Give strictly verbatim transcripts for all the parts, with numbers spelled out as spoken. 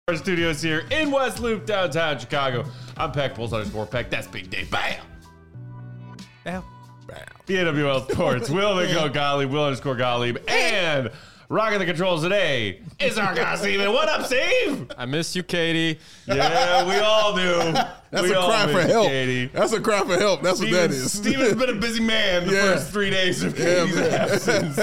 Our studios here in West Loop, downtown Chicago. I'm Peck, Bulls underscore Peck. That's Big Dave. Bam! Bam. Bam. B A W L Sports. Will the Go Gottlieb, Will underscore Gottlieb, and rocking the controls today is our guy, Steven. What up, Steve? I miss you, Katie. Yeah, we all do. That's we a all cry miss for help. Katie. That's a cry for help. That's Steven's, what that is. Steven's been a busy man the Yeah. first three days of Katie's Yeah, absence.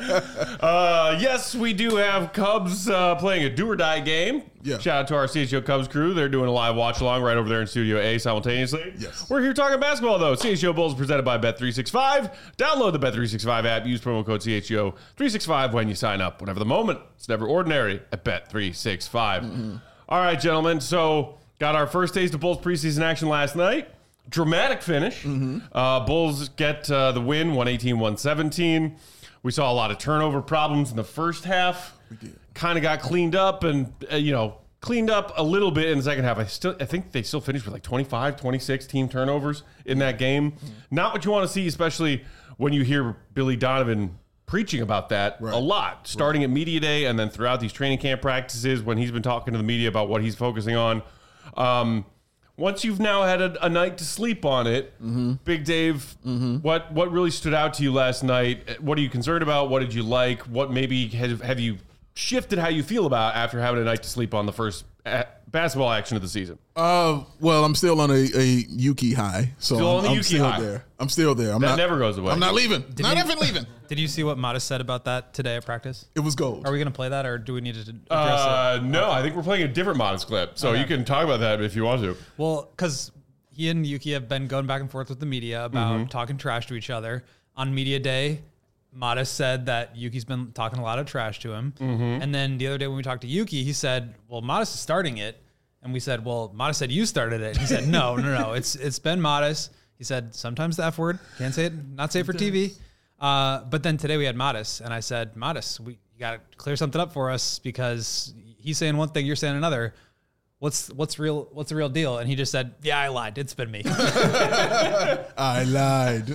uh, yes, we do have Cubs uh, playing a do or die game. Yeah. Shout out to our C H O Cubs crew. They're doing a live watch along right over there in Studio A simultaneously. Yes. We're here talking basketball, though. C H O Bulls presented by Bet three sixty-five. Download the Bet three sixty-five app. Use promo code C H O three sixty-five when you sign up. Whatever the moment, it's never ordinary at Bet three sixty-five. Mm-hmm. All right, gentlemen. So, got our first taste of Bulls preseason action last night. Dramatic finish. Mm-hmm. Uh, Bulls get uh, the win, one eighteen one seventeen. We saw a lot of turnover problems in the first half. We did. Kind of got cleaned up and, uh, you know, cleaned up a little bit in the second half. I still, I think they still finished with like twenty-five, twenty-six team turnovers in that game. Mm-hmm. Not what you want to see, especially when you hear Billy Donovan preaching about that right. a lot, starting right. at media day and then throughout these training camp practices when he's been talking to the media about what he's focusing on. Um, once you've now had a, a night to sleep on it, mm-hmm. Big Dave, mm-hmm. what what really stood out to you last night? What are you concerned about? What did you like? What maybe have, have you shifted how you feel about after having a night to sleep on the first basketball action of the season? Uh, well, I'm still on a, a Yuki high, so still I'm, on the I'm Yuki still high. there. I'm still there. I'm that not, never goes away. I'm not leaving. Did not you, even leaving. Did you see what Modest said about that today at practice? It was gold. Are we going to play that, or do we need to address uh, it? No, I think we're playing a different Modest clip, so okay. you can talk about that if you want to. Well, because he and Yuki have been going back and forth with the media about mm-hmm. talking trash to each other. On media day, Modest said that Yuki's been talking a lot of trash to him. Mm-hmm. And then the other day when we talked to Yuki, he said, well, Modest is starting it. And we said, well, Modest said you started it. He said, no, no, no. It's It's been Modest. He said, sometimes the F word. Can't say it. Not safe for T V. Uh, but then today we had Modest. And I said, Modest, we you got to clear something up for us because he's saying one thing, you're saying another. What's what's real? What's the real deal? And he just said, "Yeah, I lied. It's been me." I lied.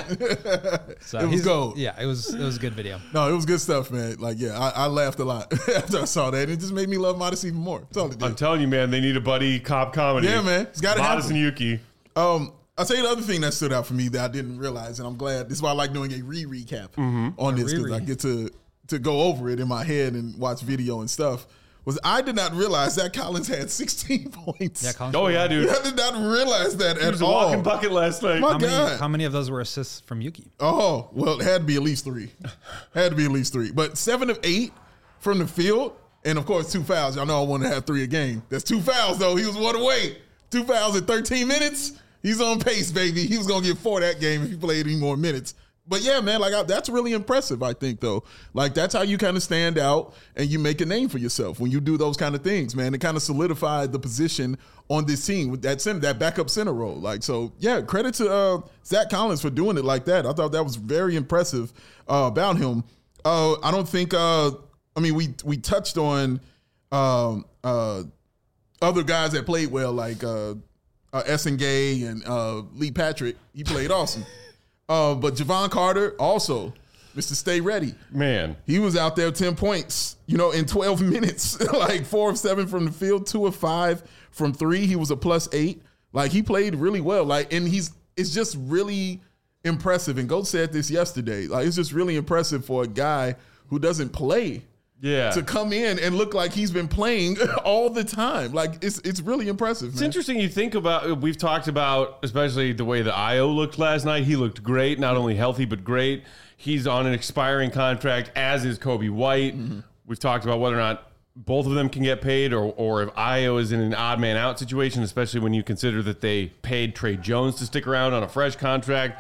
So it was gold. Yeah, it was. It was a good video. No, it was good stuff, man. Like, yeah, I, I laughed a lot after I saw that. It just made me love Modest even more. That's all it did. I'm telling you, man, they need a buddy cop comedy. Yeah, man, it's got to happen. Modest and Yuki. Um, I'll tell you the other thing that stood out for me that I didn't realize, and I'm glad. This is why I like doing a re-recap mm-hmm. on a this because I get to to go over it in my head and watch video and stuff. Was I did not realize that Collins had sixteen points. Yeah, Collins oh yeah, dude. I did not realize that he at was a all. walking bucket last night. My how, God. many, how many of those were assists from Yuki? Oh, well, it had to be at least three. Had to be at least three. But seven of eight from the field, and of course two fouls. Y'all know I want to have three a game. That's two fouls though. He was one away. Two fouls in thirteen minutes. He's on pace, baby. He was gonna get four that game if he played any more minutes. But yeah, man, like I, that's really impressive, I think, though. Like that's how you kind of stand out and you make a name for yourself when you do those kind of things, man. It kind of solidified the position on this team with that center, that backup center role. Like, so yeah, credit to uh, Zach Collins for doing it like that. I thought that was very impressive uh, about him. Uh, I don't think. Uh, I mean, we we touched on um, uh, other guys that played well, like uh, uh, Essen Gay and uh, Lee Patrick. He played awesome. Uh, but Javon Carter also, Mister Stay Ready. Man. He was out there ten points, you know, in twelve minutes. Like four of seven from the field, two of five from three. He was a plus eight. Like he played really well. Like, and he's it's just really impressive. And Goat said this yesterday. Like it's just really impressive for a guy who doesn't play. Yeah. To come in and look like he's been playing all the time. Like, it's it's really impressive, man. It's interesting you think about, we've talked about, especially the way that Io looked last night. He looked great, not only healthy, but great. He's on an expiring contract, as is Kobe White. Mm-hmm. We've talked about whether or not both of them can get paid or, or if Io is in an odd man out situation, especially when you consider that they paid Trey Jones to stick around on a fresh contract.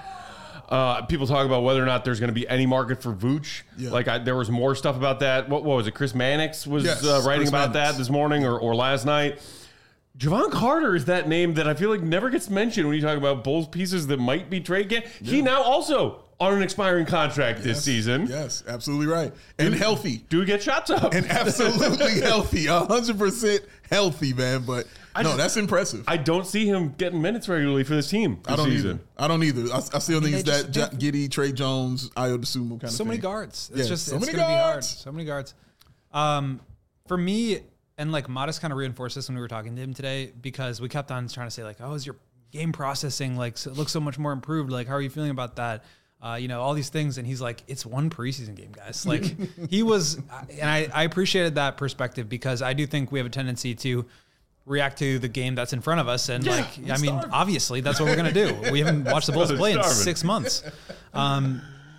Uh, people talk about whether or not there's going to be any market for Vooch. Yeah. Like I, there was more stuff about that. What, what was it? Chris Mannix was yes, uh, writing Chris about Mannix. that this morning or, or last night. Javon Carter is that name that I feel like never gets mentioned when you talk about Bulls pieces that might be trade can. Yeah. He now also on an expiring contract yes, this season. Yes, absolutely right. And dude, healthy. Do get shots up. And absolutely healthy. one hundred percent healthy, man. But I no, just, that's impressive. I don't see him getting minutes regularly for this team this I don't season. either. I don't either. I, I still I mean, think it's just, that Giddy, Trey Jones, Io DeSumo kind of so thing. many guards. It's Yeah, just so it's many gonna be hard. guards. So many guards. Um, for me, And like Modest kind of reinforced this when we were talking to him today, because we kept on trying to say like, oh, is your game processing like so, it looks so much more improved? Like, how are you feeling about that? Uh, you know, all these things. And he's like, it's one preseason game, guys. Like he was, and I, I appreciated that perspective, because I do think we have a tendency to react to the game that's in front of us. And yeah, like, I mean, starving. Obviously that's what we're going to do. We haven't watched the Bulls play in six months. Um,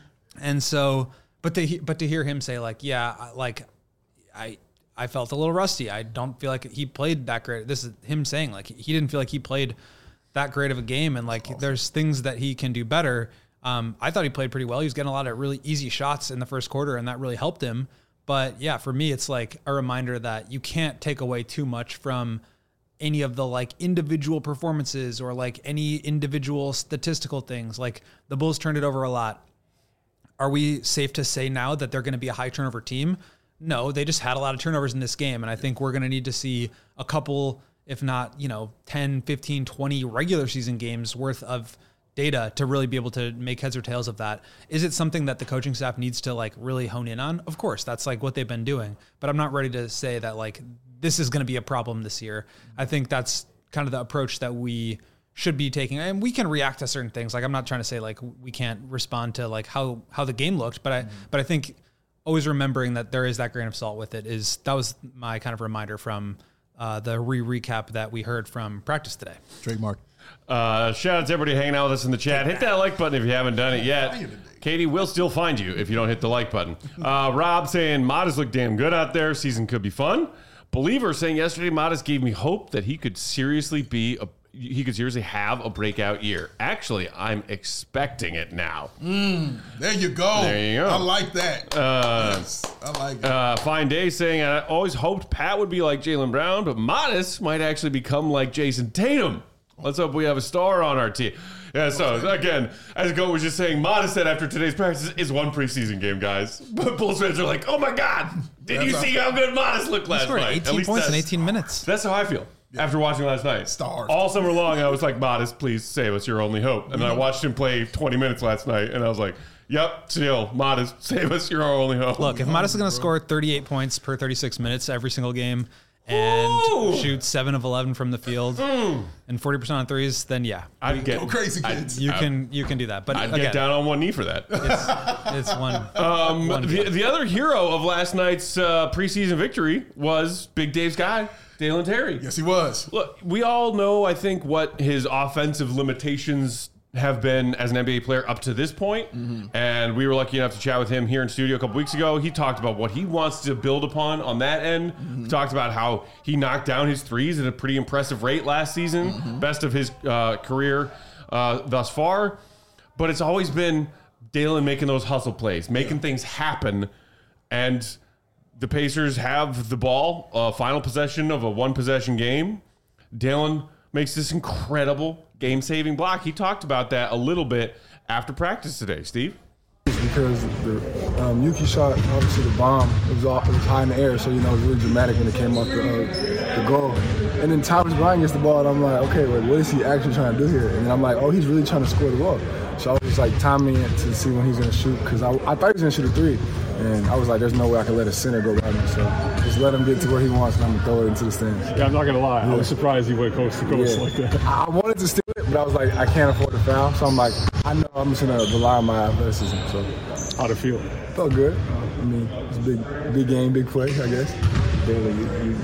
and so, but to, but to hear him say like, yeah, like I, I felt a little rusty. I don't feel like he played that great. This is him saying like, he didn't feel like he played that great of a game. And like, awesome. There's things that he can do better. Um, I thought he played pretty well. He was getting a lot of really easy shots in the first quarter, and that really helped him. But yeah, for me, it's like a reminder that you can't take away too much from any of the like individual performances or like any individual statistical things. Like the Bulls turned it over a lot. Are we safe to say now that they're going to be a high turnover team? No, they just had a lot of turnovers in this game. And I think we're going to need to see a couple, if not, you know, ten, fifteen, twenty regular season games worth of data to really be able to make heads or tails of that. Is it something that the coaching staff needs to like really hone in on? Of course, that's like what they've been doing, but I'm not ready to say that like this is going to be a problem this year. I think that's kind of the approach that we should be taking, and we can react to certain things. Like I'm not trying to say like we can't respond to like how, how the game looked, but I, mm-hmm. but I think always remembering that there is that grain of salt with it is, that was my kind of reminder from uh, the re-recap that we heard from practice today. Trademark. Uh, shout out to everybody hanging out with us in the chat. Hit that like button if you haven't done it yet. Katie will still find you if you don't hit the like button. Uh, Rob saying Modest looked damn good out there. Season could be fun. Believer saying yesterday Modest gave me hope that he could seriously be a he could seriously have a breakout year. Actually, I'm expecting it now. Mm, there you go. There you go. I like that. Uh, yes, I like it. Uh, Fine Day saying I always hoped Pat would be like Jaylen Brown, but Modest might actually become like Jason Tatum. Let's hope we have a star on our team. Yeah, so again, as Goat was just saying, Modest said after today's practice is one preseason game, guys. But Bulls fans are like, oh my God, did that's you see how good Modest looked last night? eighteen points in eighteen minutes. That's how I feel yeah. after watching last night. Stars. All summer long, I was like, Modest, please save us, your only hope. And then I watched him play twenty minutes last night, and I was like, yep, still, Modest, save us, you're our only hope. Look, if Modest is going to score thirty-eight points per thirty-six minutes every single game, and Ooh. shoot seven of eleven from the field mm. and forty percent on threes, then yeah. I'd get Go crazy kids. You can you can do that. But I'd again, get down on one knee for that. It's, it's one. Um, one the, the other hero of last night's uh, preseason victory was Big Dave's guy, Dalen Terry. Yes, he was. Look, we all know, I think, what his offensive limitations have been as an N B A player up to this point. Mm-hmm. And we were lucky enough to chat with him here in studio a couple weeks ago. He talked about what he wants to build upon on that end. Mm-hmm. He talked about how he knocked down his threes at a pretty impressive rate last season, mm-hmm. best of his uh, career uh, thus far. But it's always been Dalen making those hustle plays, making yeah. things happen. And the Pacers have the ball, uh, final possession of a one-possession game. Dalen makes this incredible game-saving block. He talked about that a little bit after practice today. Steve? Because the um, Yuki shot, obviously the bomb, it was, all, it was high in the air, so, you know, it was really dramatic when it came off the, uh, the goal. And then Thomas Bryant gets the ball, and I'm like, okay, like, what is he actually trying to do here? And I'm like, oh, he's really trying to score the ball. So I was just, like, timing it to see when he's going to shoot, because I, I thought he was going to shoot a three. And I was like, there's no way I can let a center go by me. So just let him get to where he wants, and I'm going to throw it into the stands. Yeah, I'm not going to lie. Yeah. I was surprised he went coast to coast yeah. like that. I wanted to steal it, but I was like, I can't afford to foul. So I'm like, I know I'm just going to rely on my athleticism. So how'd it feel? Felt good. I mean, it's a big, big game, big play, I guess. Dalen, you, you.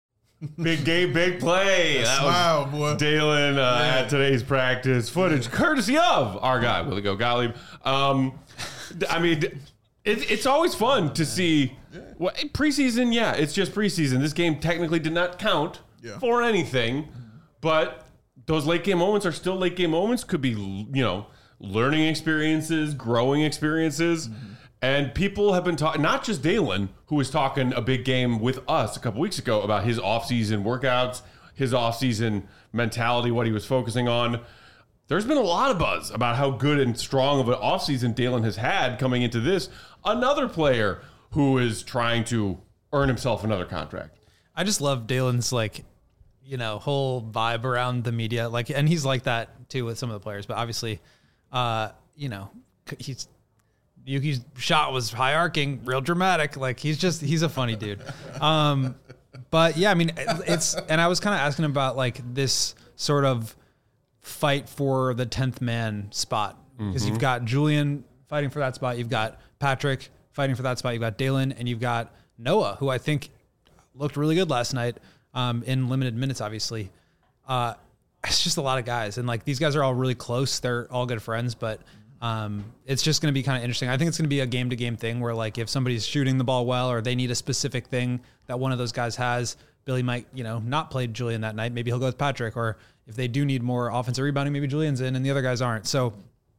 Big game, big play. That Smile, was boy. Dalen uh, at today's practice. Footage courtesy of our guy, Willie Go Gottlieb. Um, I mean, it, it's always fun to see. Well, preseason, yeah, it's just preseason. This game technically did not count yeah. for anything, but those late game moments are still late game moments. Could be, you know, learning experiences, growing experiences. Mm-hmm. And people have been talking, not just Dalen, who was talking a big game with us a couple weeks ago about his offseason workouts, his offseason mentality, what he was focusing on. There's been a lot of buzz about how good and strong of an offseason Dalen has had coming into this. Another player who is trying to earn himself another contract. I just love Dalen's, like, you know, whole vibe around the media. Like, and he's like that too with some of the players, but obviously, uh, you know, he's, Yuki's shot was high arcing, real dramatic. Like he's just, he's a funny dude. Um, But yeah, I mean, it's, and I was kind of asking about like this sort of fight for the tenth man spot. Because Mm-hmm. you've got Julian fighting for that spot. You've got Patrick fighting for that spot. You've got Dalen, and you've got Noah, who I think looked really good last night um, in limited minutes, obviously. Uh, it's just a lot of guys. And like, these guys are all really close. They're all good friends, but um, it's just going to be kind of interesting. I think it's going to be a game to game thing where like, if somebody's shooting the ball well, or they need a specific thing that one of those guys has, Billy might, you know, not play Julian that night. Maybe he'll go with Patrick, or if they do need more offensive rebounding, maybe Julian's in and the other guys aren't. So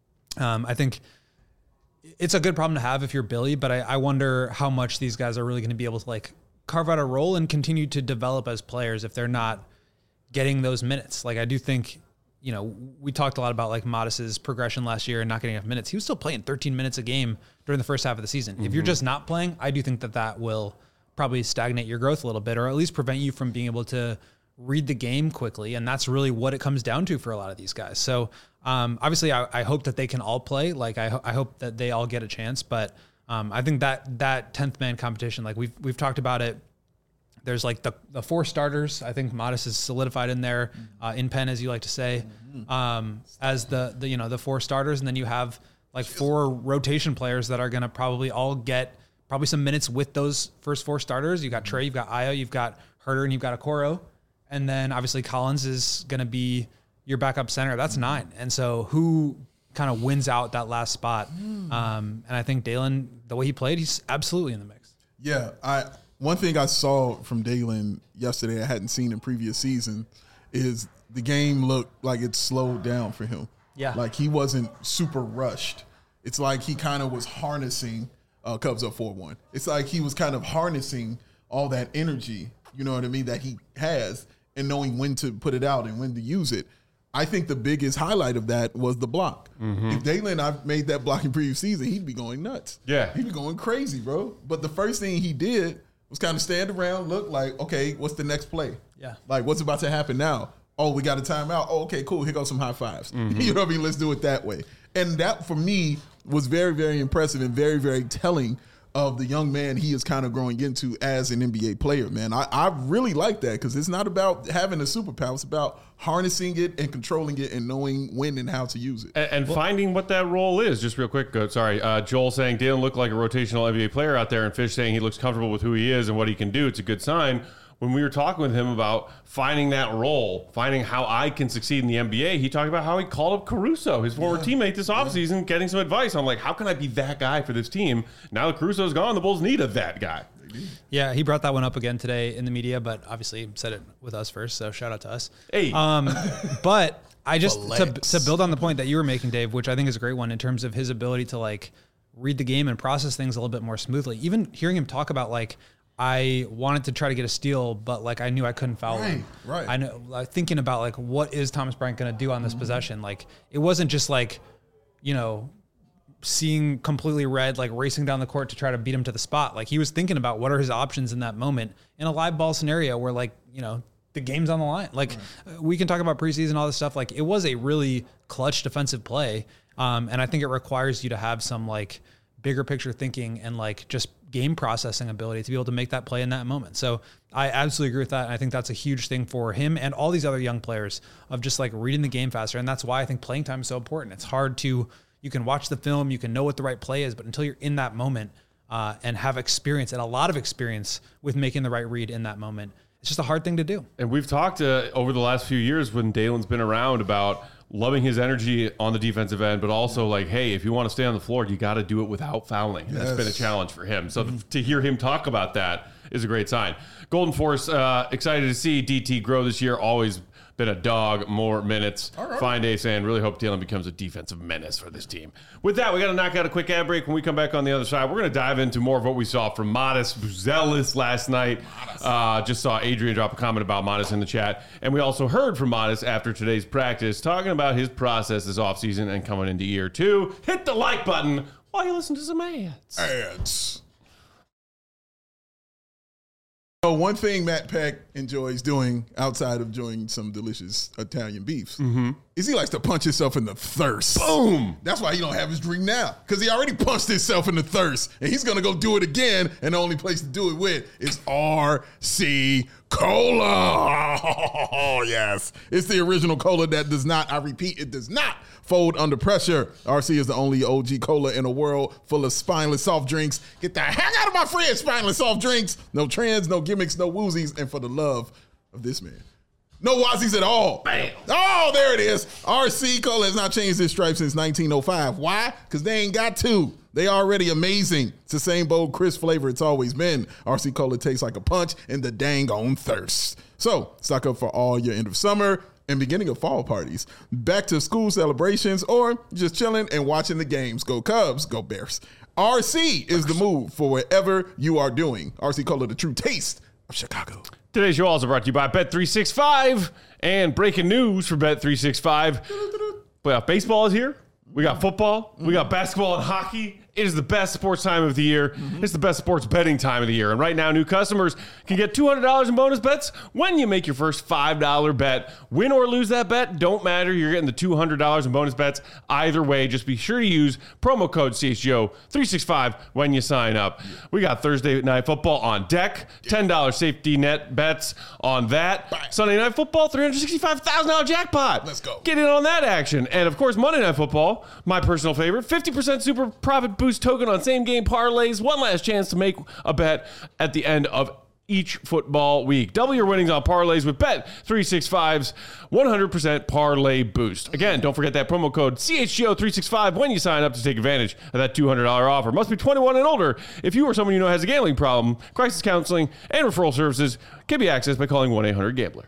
um, I think it's a good problem to have if you're Billy, but I, I wonder how much these guys are really going to be able to like carve out a role and continue to develop as players if they're not getting those minutes. Like I do think, you know, we talked a lot about like Modest's progression last year and not getting enough minutes. He was still playing thirteen minutes a game during the first half of the season. Mm-hmm. If you're just not playing, I do think that that will probably stagnate your growth a little bit, or at least prevent you from being able to read the game quickly. And that's really what it comes down to for a lot of these guys. So um, obviously I, I hope that they can all play. Like I, ho- I hope that they all get a chance, but um, I think that that tenth man competition, like we've, we've talked about it. There's like the, the four starters. I think Modest is solidified in there, uh, in pen, as you like to say, um, as the, the, you know, the four starters. And then you have like four rotation players that are going to probably all get probably some minutes with those first four starters. You've got Trey, you've got Ayo, you've got Herter, and you've got Okoro. And then obviously Collins is going to be your backup center. That's nine. And so who kind of wins out that last spot? Um, and I think Dalen, the way he played, he's absolutely in the mix. Yeah, I one thing I saw from Dalen yesterday I hadn't seen in previous season is the game looked like it slowed down for him. Yeah. Like he wasn't super rushed. It's like he kind of was harnessing uh, Cubs up four one. It's like he was kind of harnessing all that energy, you know what I mean, that he has, and knowing when to put it out and when to use it. I think the biggest highlight of that was the block. Mm-hmm. If Dalen I made that block in previous season, he'd be going nuts. Yeah. He'd be going crazy, bro. But the first thing he did was kind of stand around, look like, okay, what's the next play? Yeah. Like, what's about to happen now? Oh, we got a timeout. Oh, okay, cool. Here goes some high fives. Mm-hmm. You know what I mean? Let's do it that way. And that, for me, was very, very impressive and very, very telling of the young man he is kind of growing into as an N B A player, man. I, I really like that because it's not about having a superpower. It's about harnessing it and controlling it and knowing when and how to use it. And, and well, finding what that role is. Just real quick, uh, sorry. Uh, Joel saying Dalen looked like a rotational N B A player out there, and Fish saying he looks comfortable with who he is and what he can do. It's a good sign. When we were talking with him about finding that role, finding how I can succeed in the N B A, he talked about how he called up Caruso, his former yeah. teammate, this offseason, yeah. getting some advice. I'm like, how can I be that guy for this team? Now that Caruso's gone, the Bulls need a that guy. Yeah, he brought that one up again today in the media, but obviously said it with us first, so shout out to us. Hey. Um, but I just, to, to build on the point that you were making, Dave, which I think is a great one in terms of his ability to, like, read the game and process things a little bit more smoothly. Even hearing him talk about, like, I wanted to try to get a steal, but like I knew I couldn't foul right, him. Right. I know, like, thinking about like what is Thomas Bryant going to do on this mm-hmm. possession? Like it wasn't just like, you know, seeing completely red, like racing down the court to try to beat him to the spot. Like he was thinking about what are his options in that moment in a live ball scenario where like, you know, the game's on the line. Like right. we can talk about preseason, all this stuff. Like it was a really clutch defensive play. Um, and I think it requires you to have some like bigger picture thinking and like just game processing ability to be able to make that play in that moment. So I absolutely agree with that. And I think that's a huge thing for him and all these other young players of just like reading the game faster. And that's why I think playing time is so important. It's hard to, you can watch the film, you can know what the right play is, but until you're in that moment uh, and have experience and a lot of experience with making the right read in that moment, it's just a hard thing to do. And we've talked uh, over the last few years when Dalen's been around about loving his energy on the defensive end, but also like, hey, if you want to stay on the floor, you got to do it without fouling. Yes. That's been a challenge for him. So mm-hmm. to hear him talk about that is a great sign. Golden Force, uh, excited to see D T grow this year. Always been a dog, more minutes. Right. Fine day saying, really hope Dalen becomes a defensive menace for this team. With that, we got to knock out a quick ad break. When we come back on the other side, we're going to dive into more of what we saw from Modest Buzelis last night. Uh, just saw Adrian drop a comment about Modest in the chat. And we also heard from Modest after today's practice, talking about his process this offseason and coming into year two. Hit the like button while you listen to some ads. Ads. So one thing Matt Peck enjoys doing outside of enjoying some delicious Italian beefs mm-hmm. is he likes to punch himself in the thirst. Boom! That's why he don't have his drink now, because he already punched himself in the thirst, and he's going to go do it again, and the only place to do it with is R C Cola. Oh, yes. It's the original cola that does not, I repeat, it does not fold under pressure. R C is the only O G cola in a world full of spineless soft drinks. Get the heck out of my fridge, spineless soft drinks. No trends, no gimmicks, no woozies. And for the love of this man, no wazzies at all. Bam. Oh, there it is. R C Cola has not changed its stripe since nineteen oh five. Why? Because they ain't got to. They already amazing. It's the same bold, crisp flavor it's always been. R C Cola tastes like a punch in the dang on thirst. So stock up for all your end of summer and beginning of fall parties, back to school celebrations, or just chilling and watching the games. Go Cubs, go Bears. R C is the move for whatever you are doing. R C Cola, the true taste of Chicago. Today's show also brought to you by Bet three sixty-five. And breaking news for Bet three sixty-five. Playoff baseball is here. We got football. We got basketball and hockey. It is the best sports time of the year. Mm-hmm. It's the best sports betting time of the year. And right now, new customers can get two hundred dollars in bonus bets when you make your first five dollar bet. Win or lose that bet, don't matter. You're getting the two hundred dollars in bonus bets either way. Just be sure to use promo code C H G O three sixty-five when you sign up. We got Thursday Night Football on deck. ten dollar safety net bets on that. Bye. Sunday Night Football, three hundred sixty-five thousand dollars jackpot. Let's go. Get in on that action. And, of course, Monday Night Football, my personal favorite, fifty percent super profit boost token on same game parlays. One last chance to make a bet at the end of each football week. Double your winnings on parlays with Bet three sixty-five's one hundred percent parlay boost. Again, don't forget that promo code C H G O three sixty-five when you sign up to take advantage of that two hundred dollars offer. Must be twenty-one and older. If you or someone you know has a gambling problem, crisis counseling and referral services can be accessed by calling one eight hundred gambler.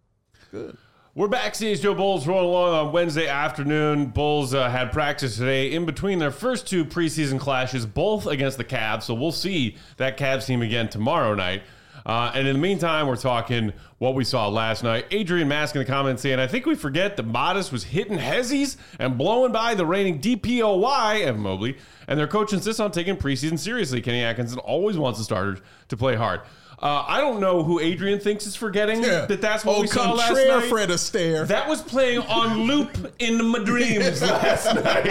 Good. We're back. C H G O Bulls rolling along on Wednesday afternoon. Bulls uh, had practice today in between their first two preseason clashes, both against the Cavs. So we'll see that Cavs team again tomorrow night. Uh, and in the meantime, we're talking what we saw last night. Adrian Mask in the comments saying, I think we forget that Modest was hitting Hezzies and blowing by the reigning D P O Y, Evan Mobley, and their coach insists on taking preseason seriously. Kenny Atkinson always wants the starters to play hard. Uh, I don't know who Adrian thinks is forgetting Yeah. that that's what oh, we saw last contraire, night. Fred Astaire. That was playing on loop in my dreams last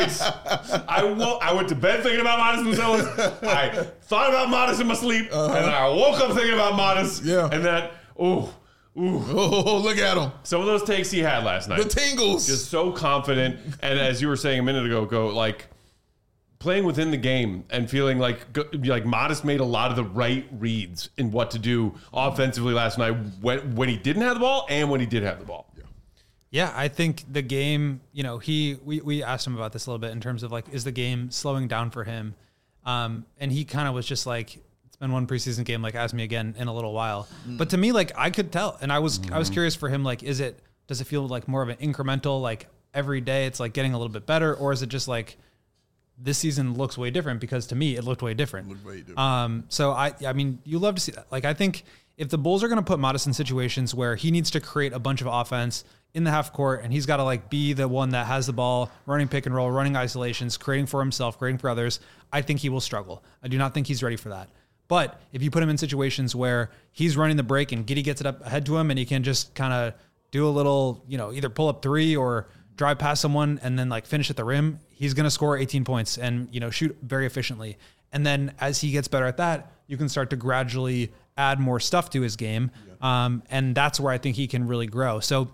night. I, wo- I went to bed thinking about Modest Mezoulas. I thought about Modest in my sleep, uh-huh. and I woke up thinking about Modest. Yeah. And that, ooh, ooh. Oh, look at him. Some of those takes he had last night. The tingles. Just so confident. And as you were saying a minute ago, go like playing within the game and feeling like like Modest made a lot of the right reads in what to do offensively last night when, when he didn't have the ball and when he did have the ball. Yeah. Yeah, I think the game, you know, he we, we asked him about this a little bit in terms of like, is the game slowing down for him? Um, and he kind of was just like, it's been one preseason game, like ask me again in a little while. Mm. But to me, like I could tell, and I was mm. I was curious for him, like, is it does it feel like more of an incremental, like every day it's like getting a little bit better, or is it just like this season looks way different? Because to me, it looked way different. Looked way different. Um, so I, I mean, you love to see that. Like, I think if the Bulls are going to put Modest in situations where he needs to create a bunch of offense in the half court, and he's got to like be the one that has the ball, running pick and roll, running isolations, creating for himself, creating for others, I think he will struggle. I do not think he's ready for that. But if you put him in situations where he's running the break and Giddey gets it up ahead to him, and he can just kind of do a little, you know, either pull up three or drive past someone and then like finish at the rim, he's going to score eighteen points and, you know, shoot very efficiently. And then as he gets better at that, you can start to gradually add more stuff to his game. Yeah. Um, and that's where I think he can really grow. So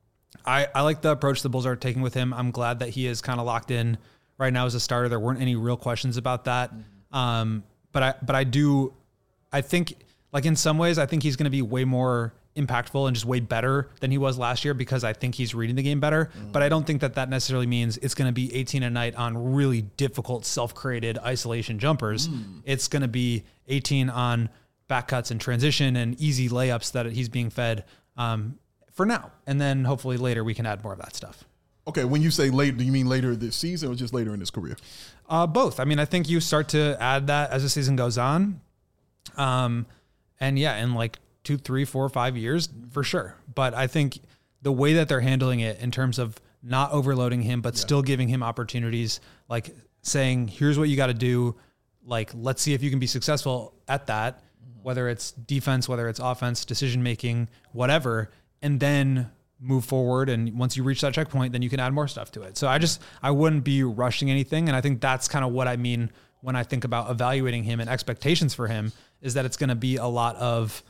I, I like the approach the Bulls are taking with him. I'm glad that he is kind of locked in right now as a starter. There weren't any real questions about that. Mm-hmm. Um, but I, but I do, I think like in some ways, I think he's going to be way more impactful and just way better than he was last year because I think he's reading the game better. Mm. But I don't think that that necessarily means it's going to be eighteen a night on really difficult self-created isolation jumpers. Mm. It's going to be eighteen on back cuts and transition and easy layups that he's being fed um, for now. And then hopefully later we can add more of that stuff. Okay, when you say late, do you mean later this season or just later in his career? Uh, both. I mean, I think you start to add that as the season goes on. Um, and yeah, in like two, three, four, five years for sure. But I think the way that they're handling it in terms of not overloading him, but yeah. still giving him opportunities, like saying, here's what you got to do. Like, let's see if you can be successful at that, mm-hmm. whether it's defense, whether it's offense, decision-making, whatever, and then move forward. And once you reach that checkpoint, then you can add more stuff to it. So I just, I wouldn't be rushing anything. And I think that's kind of what I mean when I think about evaluating him and expectations for him is that it's going to be a lot of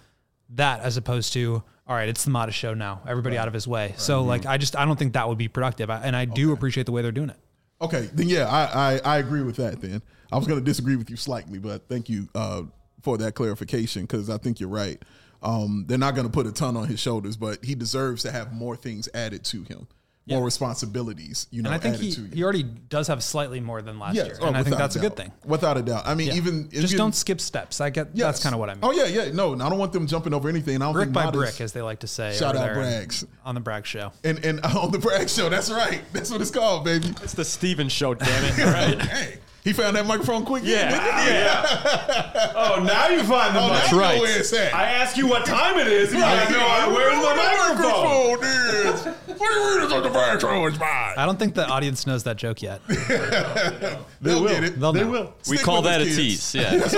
that as opposed to, all right, it's the Modest show now. Everybody Right. out of his way. Right. So, like, I just I don't think that would be productive. I, and I do Okay. appreciate the way they're doing it. Okay, then yeah, I, I, I agree with that then. I was going to disagree with you slightly, but thank you uh, for that clarification because I think you're right. Um, they're not going to put a ton on his shoulders, but he deserves to have more things added to him, more Yeah. responsibilities, you know, And I think added he, to him. he already does have slightly more than last Yes. year. Oh, And I think without that's a doubt. good thing. Without a doubt. I mean, Yeah. even Just even- don't skip steps. I get Yes. that's kind of what I mean. Oh yeah, yeah. No, I don't want them jumping over anything. I don't brick think by Modest- brick, as they like to say. Shout over out there Braggs. on the Bragg Show. And and on the Bragg Show, that's right. That's what it's called, baby. It's the Steven show, damn it. All right. Hey, he found that microphone quick. Yeah. Yeah. Oh, now you find the Oh, mic. that's right. right. Where it's at. I ask you what time it is, and Right. you know, where's my microphone? is? What do you mean it's on the microphone? It's mine. I don't think the audience knows that joke yet. They'll get it. They'll They know. will. We Stick call with that a us, kids. tease.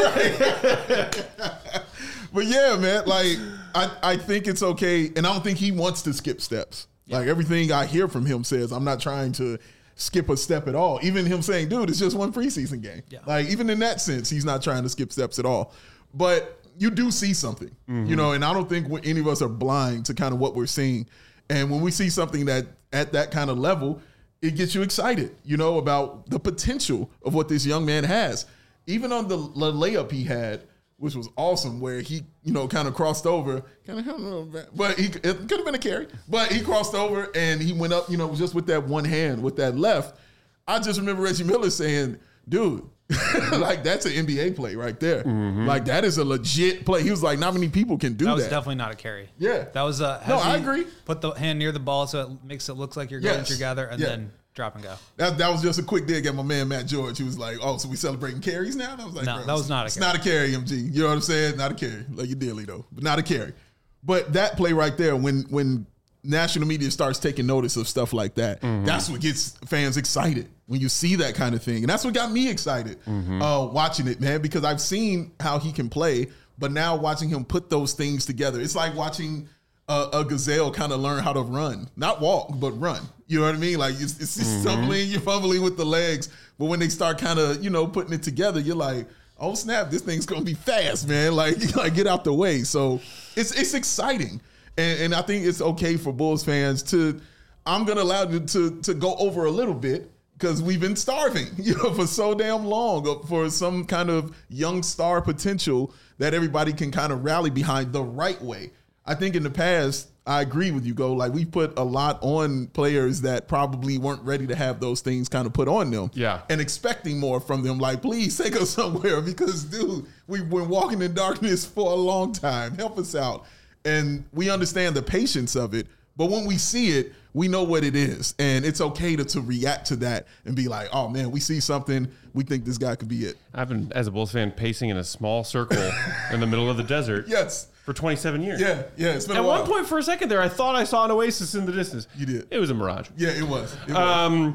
Yeah. But yeah, man, like I, I think it's okay, and I don't think he wants to skip steps. Like everything I hear from him says, I'm not trying to skip a step at all. Even him saying, dude, it's just one preseason game. Yeah. Like even in that sense, he's not trying to skip steps at all. But you do see something, you know, and I don't think any of us are blind to kind of what we're seeing. And when we see something that at that kind of level, it gets you excited, you know, about the potential of what this young man has. Even on the, the layup he had, which was awesome, where he, you know, kind of crossed over, kind of, but he it could have been a carry, but he crossed over and he went up, you know, just with that one hand, with that left. I just remember Reggie Miller saying, "Dude, like that's an N B A play right there. Like that is a legit play." He was like, "Not many people can do That that." was definitely not a carry. Yeah. That was a. No, has I he agree. Put the hand near the ball so it makes it look like you're going Yes. together and Yeah. then drop and go. That, that was just a quick dig at my man Matt George. He was like, "Oh, so we celebrating carries now?" And I was like, No, "Bro, that was not a it's carry. not a carry, M G. You know what I'm saying? Not a carry. Like you dearly though, but not a carry." But that play right there, when when national media starts taking notice of stuff like that, that's what gets fans excited. When you see that kind of thing, and that's what got me excited uh, watching it, man. Because I've seen how he can play, but now watching him put those things together, it's like watching a, a gazelle kind of learn how to run, not walk, but run. You know what I mean? Like it's, it's mm-hmm. stumbling, you're fumbling with the legs, but when they start kind of, you know, putting it together, you're like, oh snap, this thing's gonna be fast, man. Like, like get out the way. So it's it's exciting, and, and I think it's okay for Bulls fans to. I'm gonna allow you to to go over a little bit because we've been starving, you know, for so damn long for some kind of young star potential that everybody can kind of rally behind the right way. I think in the past, I agree with you, Go. Like we put a lot on players that probably weren't ready to have those things kind of put on them. Yeah. And expecting more from them. Like, please take us somewhere because, dude, we've been walking in darkness for a long time. Help us out. And we understand the patience of it. But when we see it, we know what it is. And it's okay to, to react to that and be like, oh, man, we see something. We think this guy could be it. I've been, as a Bulls fan, pacing in a small circle in the middle of the desert Yes. for twenty-seven years. Yeah. Yeah. It's been At a while. one point, for a second there, I thought I saw an oasis in the distance. You did. It was a mirage. Yeah, it was. It was. Um,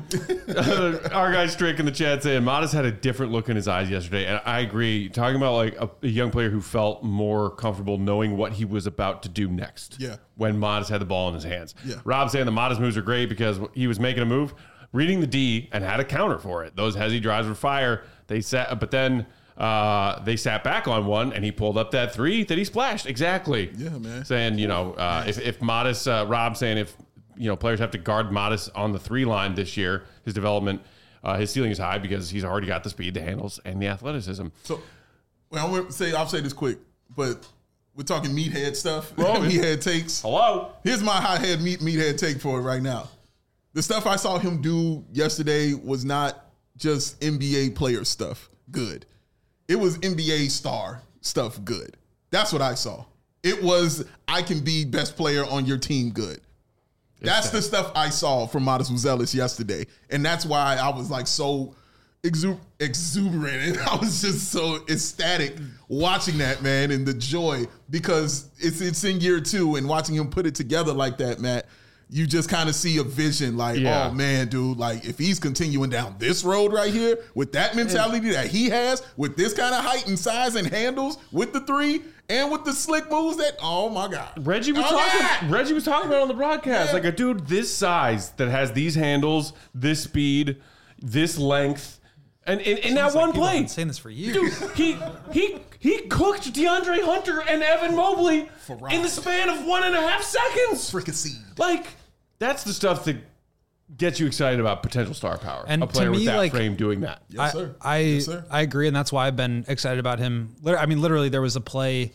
our guy Strick in the chat saying Modest had a different look in his eyes yesterday, and I agree. Talking about like a, a young player who felt more comfortable knowing what he was about to do next. Yeah. When Modest had the ball in his hands. Yeah. Rob saying the Modest moves are great because he was making a move, reading the D, and had a counter for it. Those hezzy drives were fire. They sat, but then uh, they sat back on one, and he pulled up that three that he splashed. Exactly. Yeah, man. Saying, you know, uh, if, if Modest, uh, Rob saying if, you know, players have to guard Modest on the three line this year, his development, uh, his ceiling is high because he's already got the speed, the handles, and the athleticism. So, well, I'm gonna say I'll say this quick, but we're talking meathead stuff. Well, meathead takes. Hello? Here's my hothead meat meathead take for it right now. The stuff I saw him do yesterday was not just N B A player stuff good. It was N B A star stuff good. That's what I saw. It was I can be best player on your team good. That's the stuff I saw from Modest Buzelis yesterday. And that's why I was like so exu- exuberant. And I was just so ecstatic watching that, man, and the joy because it's it's in year two and watching him put it together like that, Matt, you just kind of see a vision like, Yeah. oh, man, dude, like if he's continuing down this road right here with that mentality that he has, with this kind of height and size and handles with the three and with the slick moves that, oh, my God. Reggie was Oh, talking. yeah. Reggie was talking about it on the broadcast, Yeah. like a dude this size that has these handles, this speed, this length, and in, in that Sounds like one people have play, been saying this for years. dude, he he He cooked DeAndre Hunter and Evan Mobley in the span of one and a half seconds. Freaking seed. Like, that's the stuff that gets you excited about potential star power. And a player to me, with that like, frame doing that. Yes, sir. I I, yes, sir. I agree, and that's why I've been excited about him. Lit- I mean, literally, there was a play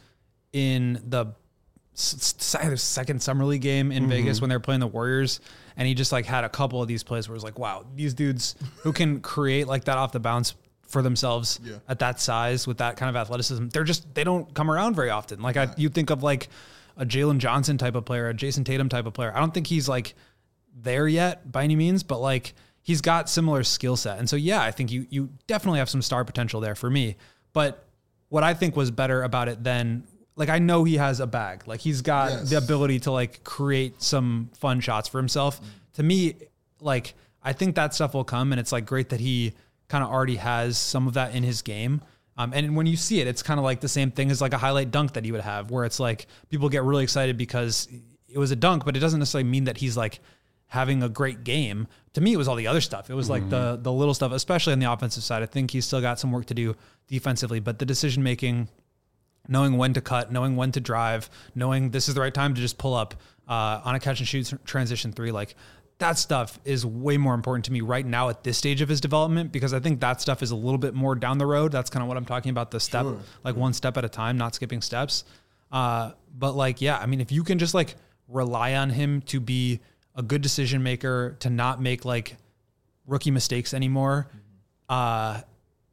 in the s- s- second summer league game in mm-hmm. Vegas when they were playing the Warriors, and he just like had a couple of these plays where it was like, wow, these dudes who can create like that off the bounce for themselves yeah. at that size with that kind of athleticism, they're just they don't come around very often. Like I, you think of like a Jalen Johnson type of player, a Jason Tatum type of player. I don't think he's like there yet by any means, but like he's got similar skill set. And so, yeah, I think you, you definitely have some star potential there for me. But what I think was better about it than like, I know he has a bag, like he's got yes. the ability to like create some fun shots for himself. Mm. To me, like, I think that stuff will come, and it's like great that he kind of already has some of that in his game. Um, and when you see it, it's kind of like the same thing as like a highlight dunk that he would have, where it's like people get really excited because it was a dunk, but it doesn't necessarily mean that he's like having a great game. To me, it was all the other stuff. It was like mm-hmm. the the little stuff, especially on the offensive side. I think he's still got some work to do defensively, but the decision making, knowing when to cut, knowing when to drive, knowing this is the right time to just pull up uh, on a catch and shoot transition three, like that stuff is way more important to me right now at this stage of his development, because I think that stuff is a little bit more down the road. That's kind of what I'm talking about, the step, sure. like one step at a time, not skipping steps. Uh, but like, yeah, I mean, if you can just like rely on him to be a good decision maker, to not make like rookie mistakes anymore, uh,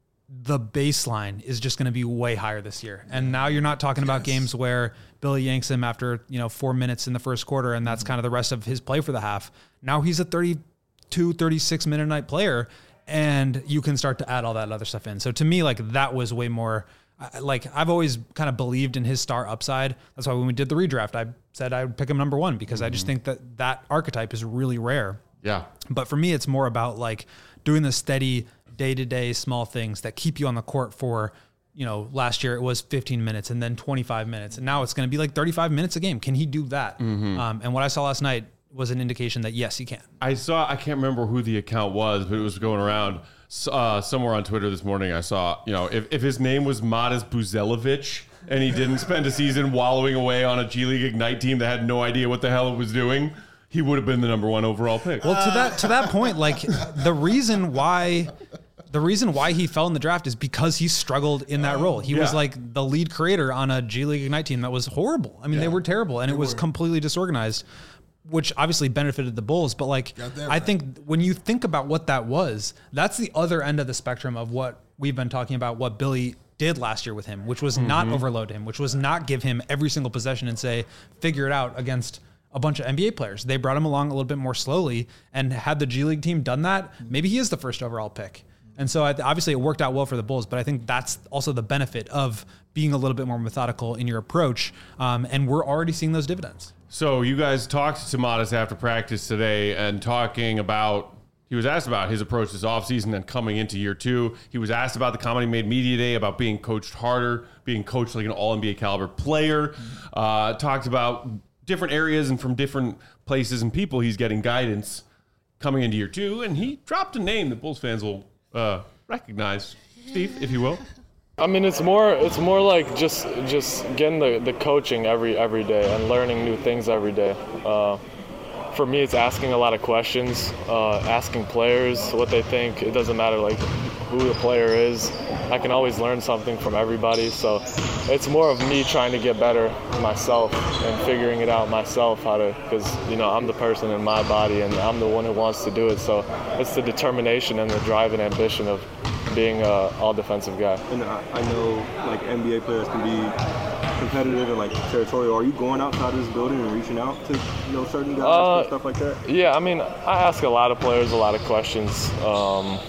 the baseline is just going to be way higher this year. And now you're not talking yes. about games where Billy yanks him after, you know, four minutes in the first quarter, and that's mm-hmm. kind of the rest of his play for the half. Now he's a thirty-two, thirty-six minute night player, and you can start to add all that other stuff in. So to me, like that was way more like, I've always kind of believed in his star upside. That's why when we did the redraft, I said I would pick him number one, because mm-hmm. I just think that that archetype is really rare. Yeah. But for me, it's more about like doing the steady day-to-day small things that keep you on the court for, you know, last year it was fifteen minutes and then twenty-five minutes. And now it's going to be like thirty-five minutes a game. Can he do that? Mm-hmm. Um, and what I saw last night was an indication that yes, he can. I saw, I can't remember who the account was, but it was going around uh, somewhere on Twitter this morning. I saw, you know, if, if his name was Modest Buzelevic and he didn't spend a season wallowing away on a G League Ignite team that had no idea what the hell it was doing, he would have been the number one overall pick. Well, to that, to that point, like the reason why... The reason why he fell in the draft is because he struggled in that role. He yeah. was like the lead creator on a G League Ignite team that was horrible. I mean, yeah. they were terrible, and they it was were. completely disorganized, which obviously benefited the Bulls. But like, I right. think when you think about what that was, that's the other end of the spectrum of what we've been talking about, what Billy did last year with him, which was mm-hmm. not overload him, which was not give him every single possession and say, figure it out against a bunch of N B A players. They brought him along a little bit more slowly, and had the G League team done that, maybe he is the first overall pick. And so obviously it worked out well for the Bulls, but I think that's also the benefit of being a little bit more methodical in your approach. Um, and we're already seeing those dividends. So you guys talked to Modest after practice today, and talking about, he was asked about his approach this offseason and coming into year two. He was asked about the comment he made media day about being coached harder, being coached like an all N B A caliber player. Uh, talked about different areas and from different places and people he's getting guidance coming into year two. And he dropped a name that Bulls fans will Uh, recognize. Steve, if you will. I mean, it's more it's more like just just getting the, the coaching every every day and learning new things every day. Uh, for me, it's asking a lot of questions, uh, asking players what they think. It doesn't matter like who the player is. I can always learn something from everybody. So it's more of me trying to get better myself and figuring it out myself how to, because you know I'm the person in my body and I'm the one who wants to do it. So it's the determination and the drive and ambition of being an all-defensive guy. And I, I know like N B A players can be competitive and like territorial. Are you going outside of this building and reaching out to you know certain guys uh, and stuff like that? Yeah, I mean, I ask a lot of players a lot of questions. Um,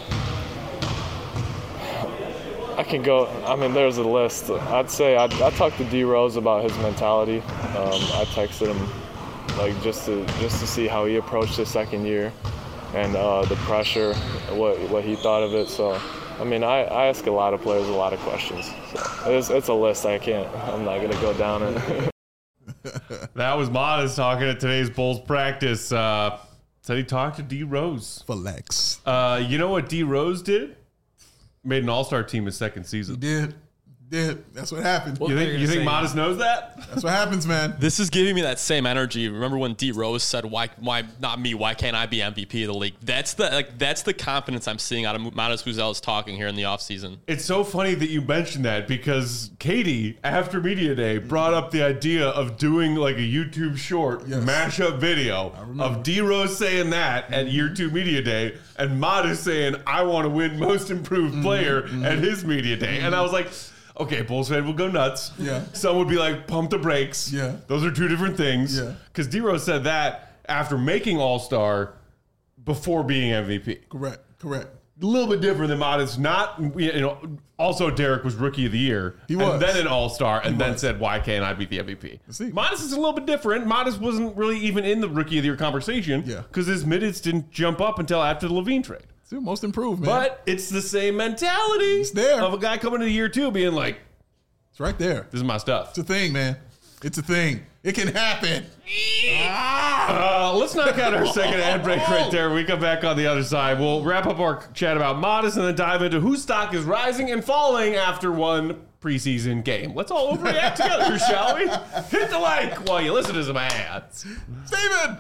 I can go, I mean, there's a list. I'd say I, I talked to D Rose about his mentality. Um, I texted him like just to just to see how he approached his second year and uh, the pressure, what what he thought of it. So, I mean, I, I ask a lot of players a lot of questions. So it's, it's a list I can't, I'm not going to go down it. That was Modest talking at today's Bulls practice. Uh, said he talked to D Rose. Flex. Uh, you know what D Rose did? Made an all-star team his second season. He did. Did. That's what happened. You think, you think Modest knows that? That's what happens, man. This is giving me that same energy. Remember when D Rose said, "Why, why not me? Why can't I be M V P of the league?" That's the like. That's the confidence I'm seeing out of Modest Buzel's talking here in the offseason. It's so funny that you mentioned that because Katie, after Media Day, brought up the idea of doing like a YouTube short Yes. mashup video of D Rose saying that at Year Two Media Day, and Modest saying, "I want to win Most Improved Player" Mm-hmm. at his Media Day, and I was like, okay, Bulls fan will go nuts. Yeah. Some would be like, pump the brakes. Yeah. Those are two different things. Yeah. Because D Rose said that after making All Star before being M V P. Correct. Correct. A little bit different than Modest. Not, you know, also Derek was Rookie of the Year. He was. And then an All-Star, and then was. said, why can't I be the M V P? See. Modest is a little bit different. Modest wasn't really even in the Rookie of the Year conversation. Yeah. Because his minutes didn't jump up until after the Levine trade. See, most improved, man. But it's the same mentality It's there. of a guy coming into year two being like, it's right there. this is my stuff. It's a thing, man. It's a thing. It can happen. Uh, let's knock out our second ad break right there. When we come back on the other side, we'll wrap up our chat about Modest and then dive into whose stock is rising and falling after one preseason game. Let's all overreact together, shall we? Hit the like while you listen to some ads. Steven!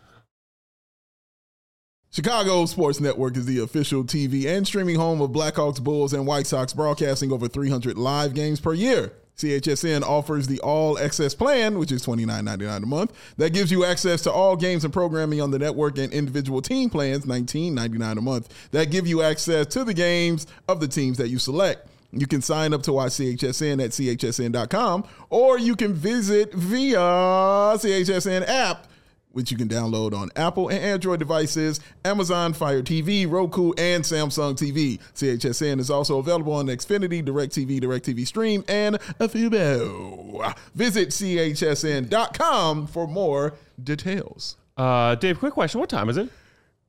Chicago Sports Network is the official T V and streaming home of Blackhawks, Bulls, and White Sox, broadcasting over three hundred live games per year. C H S N offers the All Access plan, which is twenty-nine ninety-nine a month. That gives you access to all games and programming on the network, and individual team plans, nineteen ninety-nine a month, that give you access to the games of the teams that you select. You can sign up to watch C H S N at C H S N dot com, or you can visit via C H S N app, which you can download on Apple and Android devices, Amazon Fire T V, Roku, and Samsung T V. C H S N is also available on Xfinity, DirecTV, DirecTV Stream, and Fubo. Visit C H S N dot com for more details. Uh, Dave, quick question. What time is it?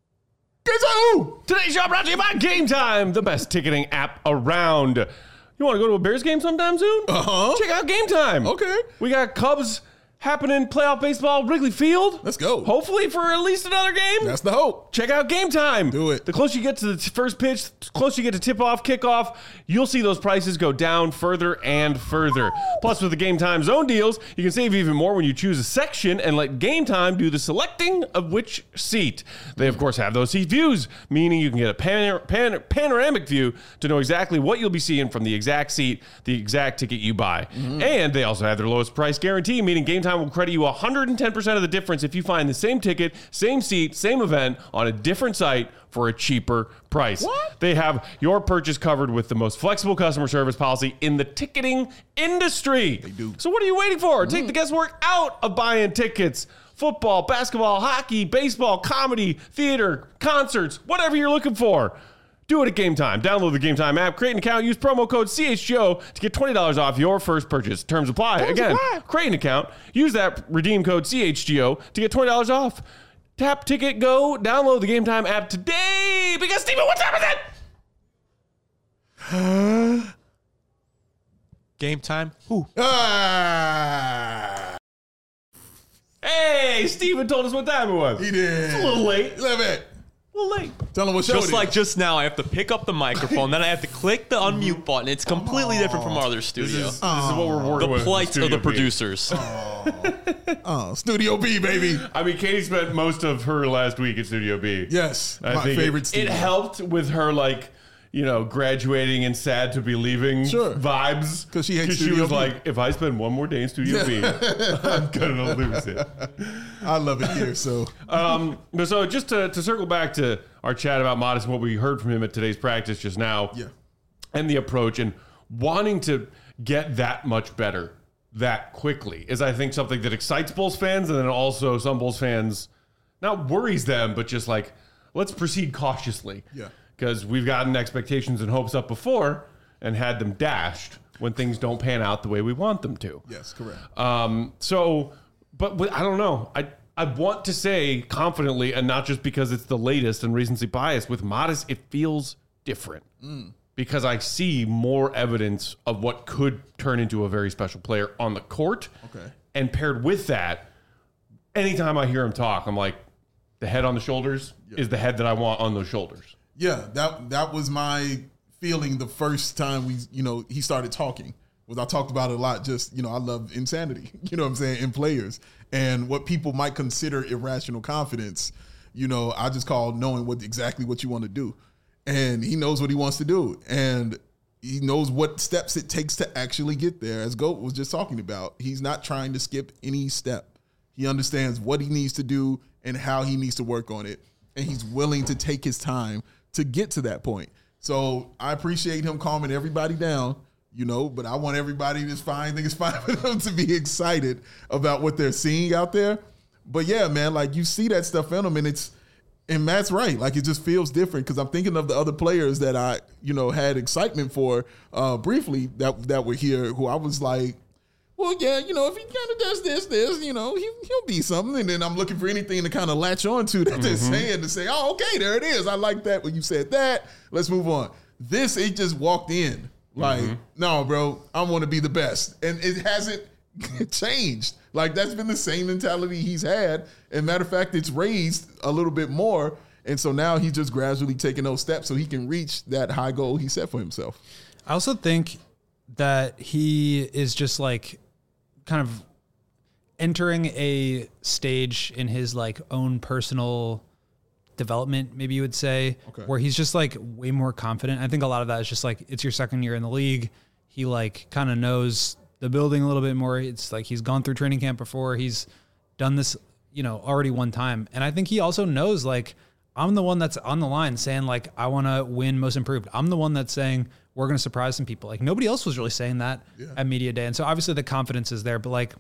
Who? Today's show brought to you by Game Time, the best ticketing app around. You want to go to a Bears game sometime soon? Uh-huh. Check out Game Time. Okay. We got Cubs happening, playoff baseball, Wrigley Field. Let's go. Hopefully for at least another game. That's the hope. Check out Game Time. Do it. The closer you get to the t- first pitch, the closer you get to tip-off, kickoff, you'll see those prices go down further and further. Plus, with the Game Time zone deals, you can save even more when you choose a section and let Game Time do the selecting of which seat. They, of course, have those seat views, meaning you can get a pan- pan- panoramic view to know exactly what you'll be seeing from the exact seat, the exact ticket you buy. Mm-hmm. And they also have their lowest price guarantee, meaning Game Time will credit you one hundred ten percent of the difference if you find the same ticket, same seat, same event on a different site for a cheaper price. What? They have your purchase covered with the most flexible customer service policy in the ticketing industry. They do. So what are you waiting for? Mm. Take the guesswork out of buying tickets. Football, basketball, hockey, baseball, comedy, theater, concerts, whatever you're looking for. Do it at Game Time. Download the Game Time app, create an account, use promo code C H G O to get twenty dollars off your first purchase. Terms apply. Terms Again, apply. create an account, use that redeem code C H G O to get twenty dollars off. Tap, ticket, go. Download the Game Time app today. Because, Steven, what time is it? Game time. Who? Ah, Hey, Steven told us what time it was. he did. It's a little late. A little bit. A little late. Tell him what show Just it like is. just now, I have to pick up the microphone, then I have to click the unmute button. It's completely different from our other This studio. is, this is what we're working The with. plight of Studio the B. producers. Oh, Studio B, baby. I mean, Katie spent most of her last week at Studio B. Yes, I my think favorite It, studio. it helped with her, like, you know, graduating and sad to be leaving Sure. vibes. 'Cause she hates she Studio was B. like, if I spend one more day in Studio B, I'm gonna lose it. I love it here. So Um, but so just to, to circle back to our chat about Modest, what we heard from him at today's practice just now, yeah, and the approach and wanting to get that much better that quickly is, I think, something that excites Bulls fans, and then also some Bulls fans not worries them, but just like, let's proceed cautiously. Yeah. Because we've gotten expectations and hopes up before and had them dashed when things don't pan out the way we want them to. yes, correct. Um, so, but with, I don't know. I I want to say confidently, and not just because it's the latest and recency bias, with Modest, it feels different. Mm. Because I see more evidence of what could turn into a very special player on the court. Okay. And paired with that, anytime I hear him talk, I'm like, the head on the shoulders Yeah. is the head that I want on those shoulders. Yeah, that that was my feeling the first time we, you know, he started talking. was I talked about it a lot. Just, you know, I love insanity, you know what I'm saying, in players. And what people might consider irrational confidence, you know, I just call knowing what exactly what you want to do. And he knows what he wants to do. And he knows what steps it takes to actually get there. As Goat was just talking about, he's not trying to skip any step. He understands what he needs to do and how he needs to work on it. And he's willing to take his time to get to that point. So I appreciate him calming everybody down, you know, but I want everybody that's fine. I think it's fine for them to be excited about what they're seeing out there. But yeah, man, like you see that stuff in them, and it's, and Matt's right. Like it just feels different because I'm thinking of the other players that I, you know, had excitement for uh, briefly that that were here, who I was like, well, yeah, you know, if he kind of does this, this, you know, he, he'll be something. And then I'm looking for anything to kind of latch on to that mm-hmm. they're saying to say, oh, okay, there it is. I like that when you said that. Let's move on. This, it just walked in like, mm-hmm. no, bro, I want to be the best. And it hasn't changed. Like that's been the same mentality he's had. And matter of fact, it's raised a little bit more. And so now he's just gradually taking those steps so he can reach that high goal he set for himself. I also think that he is just like, kind of entering a stage in his like own personal development, maybe you would say, okay. where he's just like way more confident. I think a lot of that is just like, it's your second year in the league. He like kind of knows the building a little bit more. It's like, he's gone through training camp before. He's done this, you know, already one time. And I think he also knows like, I'm the one that's on the line saying like, I want to win most improved. I'm the one that's saying, we're going to surprise some people. Like nobody else was really saying that yeah. at media day. And so obviously the confidence is there, but like,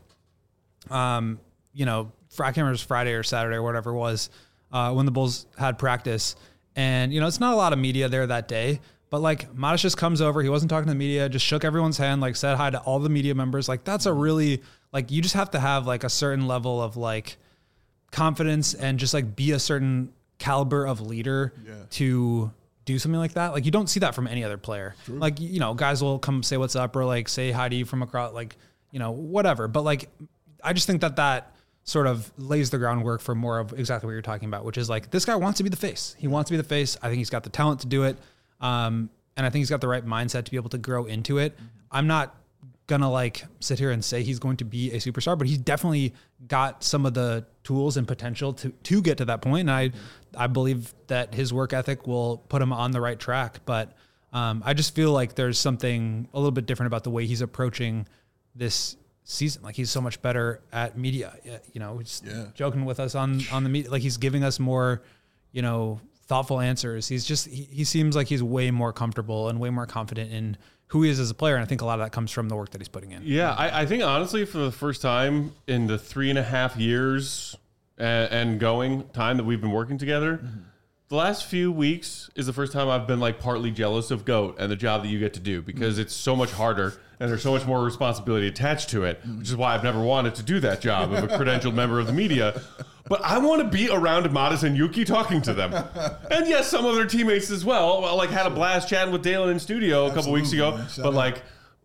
um, you know, I can't remember if it was Friday or Saturday or whatever it was, uh, when the Bulls had practice, and, you know, it's not a lot of media there that day, but like Matas just comes over. He wasn't talking to the media, just shook everyone's hand, like said hi to all the media members. Like that's a really, like, you just have to have like a certain level of like confidence and just like be a certain caliber of leader yeah. to do something like that. Like you don't see that from any other player. True. Like, you know, guys will come say what's up or like say hi to you from across, like, you know, whatever. But like, I just think that that sort of lays the groundwork for more of exactly what you're talking about, which is like, this guy wants to be the face. He wants to be the face. I think he's got the talent to do it. Um, and I think he's got the right mindset to be able to grow into it. I'm not gonna like sit here and say he's going to be a superstar, but he's definitely got some of the tools and potential to to get to that point. And I I believe that his work ethic will put him on the right track. But um, I just feel like there's something a little bit different about the way he's approaching this season. Like he's so much better at media. You know, he's yeah. joking with us on on the media. Like he's giving us more, you know, thoughtful answers. He's just he, he seems like he's way more comfortable and way more confident in who he is as a player. And I think a lot of that comes from the work that he's putting in. Yeah, I, I think honestly, for the first time in the three and a half years and, and going time that we've been working together, mm-hmm. the last few weeks is the first time I've been like partly jealous of GOAT and the job that you get to do, because mm-hmm. it's so much harder and there's so much more responsibility attached to it, mm-hmm. which is why I've never wanted to do that job of a credentialed member of the media. But I want to be around Matas and Yuki talking to them. And yes, some of their teammates as well. I like had a blast chatting with Dalen in studio a couple weeks ago. But like,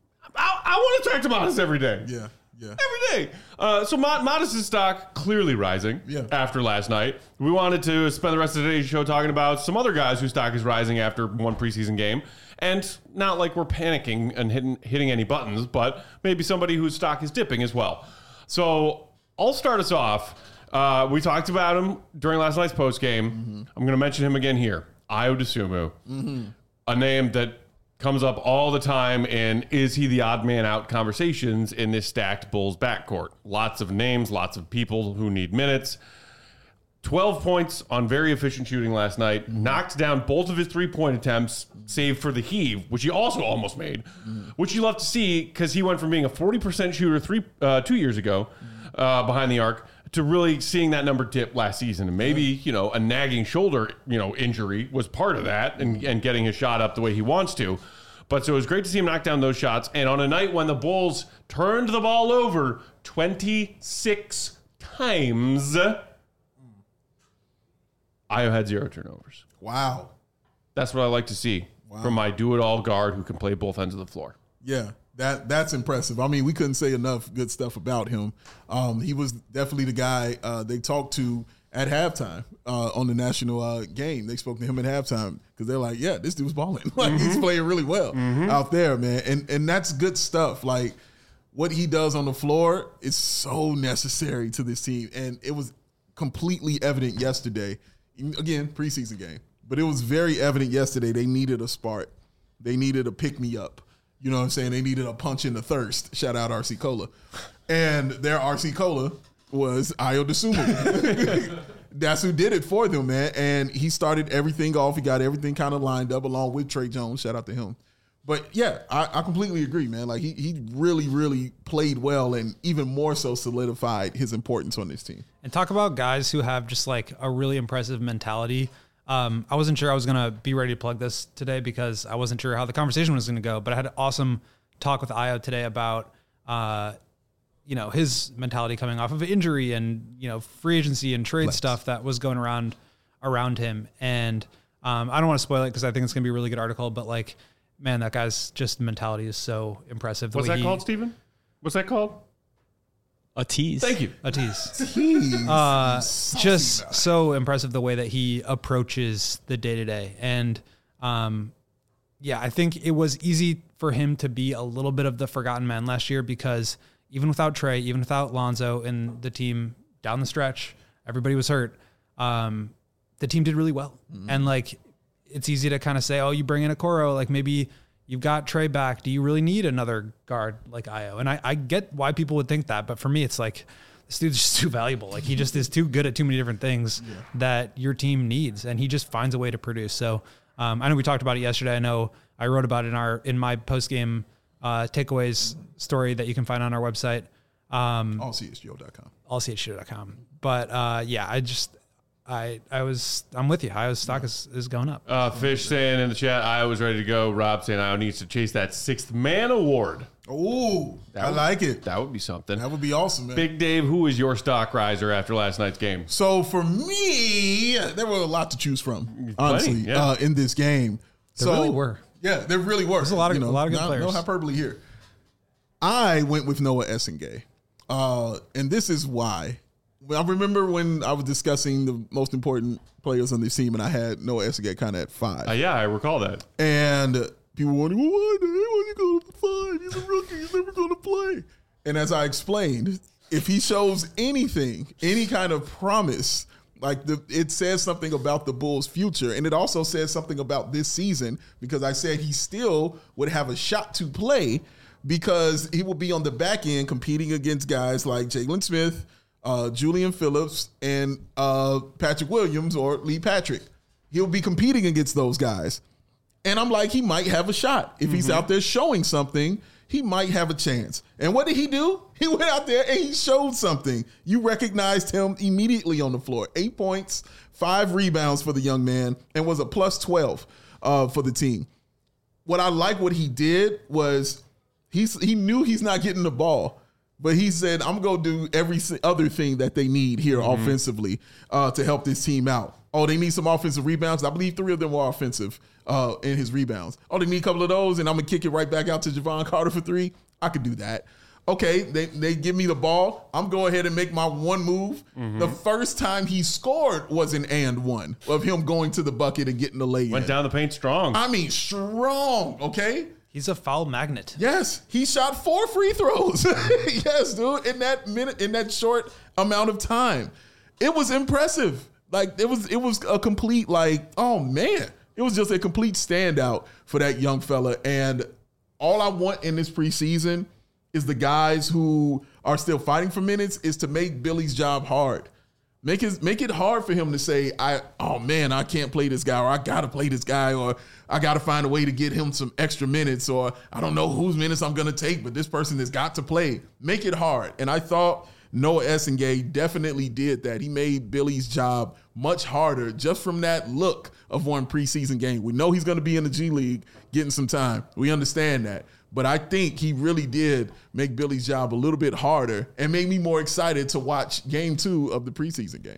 I, I want to talk to Matas every day. Yeah, yeah. Every day. Uh, so Matas' stock clearly rising yeah. after last night. We wanted to spend the rest of today's show talking about some other guys whose stock is rising after one preseason game. And not like we're panicking and hitting, hitting any buttons, but maybe somebody whose stock is dipping as well. So I'll start us off. Uh, we talked about him during last night's post game. Mm-hmm. I'm going to mention him again here. Ayo Dosunmu, mm-hmm. a name that comes up all the time in is he the odd man out conversations in this stacked Bulls backcourt. Lots of names, lots of people who need minutes. twelve points on very efficient shooting last night. Mm-hmm. Knocked down both of his three-point attempts, save for the heave, which he also almost made, mm-hmm. which you love to see because he went from being a forty percent shooter three uh, two years ago uh, behind the arc to really seeing that number dip last season. And maybe, you know, a nagging shoulder, you know, injury was part of that and, and getting his shot up the way he wants to. But so it was great to see him knock down those shots. And on a night when the Bulls turned the ball over twenty-six times, Ayo had zero turnovers. Wow. That's what I like to see wow. from my do-it-all guard who can play both ends of the floor. Yeah. That that's impressive. I mean, we couldn't say enough good stuff about him. Um, he was definitely the guy uh, they talked to at halftime uh, on the national uh, game. They spoke to him at halftime because they're like, yeah, this dude's balling. Like, mm-hmm. he's playing really well mm-hmm. out there, man. And and that's good stuff. Like, what he does on the floor is so necessary to this team. And it was completely evident yesterday. Again, preseason game. But it was very evident yesterday they needed a spark. They needed a pick-me-up. You know what I'm saying? They needed a punch in the thirst. Shout out R C Cola. And their R C Cola was Ayo Dosunmu. That's who did it for them, man. And he started everything off. He got everything kind of lined up along with Trey Jones. Shout out to him. But, yeah, I, I completely agree, man. Like, he he really, really played well and even more so solidified his importance on this team. And talk about guys who have just, like, a really impressive mentality. Um, I wasn't sure I was going to be ready to plug this today because I wasn't sure how the conversation was going to go. But I had an awesome talk with Ayo today about uh, – you know, his mentality coming off of injury and, you know, free agency and trade Let's. stuff that was going around around him. And um, I don't want to spoil it because I think it's going to be a really good article, but like, man, that guy's just mentality is so impressive. The What's way that he, called, Steven? What's that called? A tease. Thank you. A tease. Tease. Uh, Saucy just guy. so impressive the way that he approaches the day to day. And um, yeah, I think it was easy for him to be a little bit of the forgotten man last year because even without Trey, even without Lonzo and the team down the stretch, everybody was hurt. Um, the team did really well. Mm-hmm. And like, it's easy to kind of say, oh, you bring in a Okoro, like maybe you've got Trey back. Do you really need another guard like Ayo? And I, I get why people would think that, but for me, it's like, this dude's just too valuable. Like he just is too good at too many different things yeah. that your team needs. And he just finds a way to produce. So um, I know we talked about it yesterday. I know I wrote about it in our, in my post game Uh, takeaways story that you can find on our website. Um, all c h g o dot com. all c h g o dot com. But uh, yeah, I just, I I was, I'm with you. Iowa's stock is, is going up. Uh, Fish saying in the chat, Iowa was ready to go. Rob saying Iowa needs to chase that sixth man award. Oh, I would, like it. That would be something. That would be awesome, man. Big Dave, who is your stock riser after last night's game? So for me, there were a lot to choose from, honestly, Plenty, yeah. uh, in this game. There so, really were. Yeah, there really were. There's a lot of, you know, a lot of good not, players. No hyperbole here. I went with Noah Essengay. Uh, and this is why. I remember when I was discussing the most important players on this team, and I had Noah Essengay kind of at five. Uh, yeah, I recall that. And people were wondering, well, why the hell is he going to five? He's a rookie. He's never going to play. And as I explained, if he shows anything, any kind of promise, like the, it says something about the Bulls' future, and it also says something about this season because I said he still would have a shot to play because he will be on the back end competing against guys like Jalen Smith, uh, Julian Phillips, and uh, Patrick Williams or Lee Patrick. He'll be competing against those guys. And I'm like, he might have a shot. If mm-hmm. he's out there showing something, he might have a chance. And what did he do? He went out there and he showed something. You recognized him immediately on the floor. Eight points, five rebounds for the young man, and was a plus twelve uh, for the team. What I like what he did was he's, he knew he's not getting the ball, but he said, I'm going to do every other thing that they need here mm-hmm. offensively uh, to help this team out. Oh, they need some offensive rebounds. I believe three of them were offensive uh, in his rebounds. Oh, they need a couple of those, and I'm going to kick it right back out to Javon Carter for three. I could do that. Okay, they, they give me the ball. I'm going ahead and make my one move. Mm-hmm. The first time he scored was an and one of him going to the bucket and getting the lay in. Went down the paint strong. I mean, strong, okay? He's a foul magnet. Yes, he shot four free throws. Yes, dude, in that minute, in that short amount of time. It was impressive. Like, it was it was a complete, like, oh, man. It was just a complete standout for that young fella. And all I want in this preseason is the guys who are still fighting for minutes is to make Billy's job hard. Make his make it hard for him to say, I oh, man, I can't play this guy, or I got to play this guy, or I got to find a way to get him some extra minutes, or I don't know whose minutes I'm going to take, but this person has got to play. Make it hard. And I thought Noah Essengay definitely did that. He made Billy's job much harder just from that look of one preseason game. We know he's going to be in the G League getting some time. We understand that. But I think he really did make Billy's job a little bit harder and made me more excited to watch game two of the preseason game.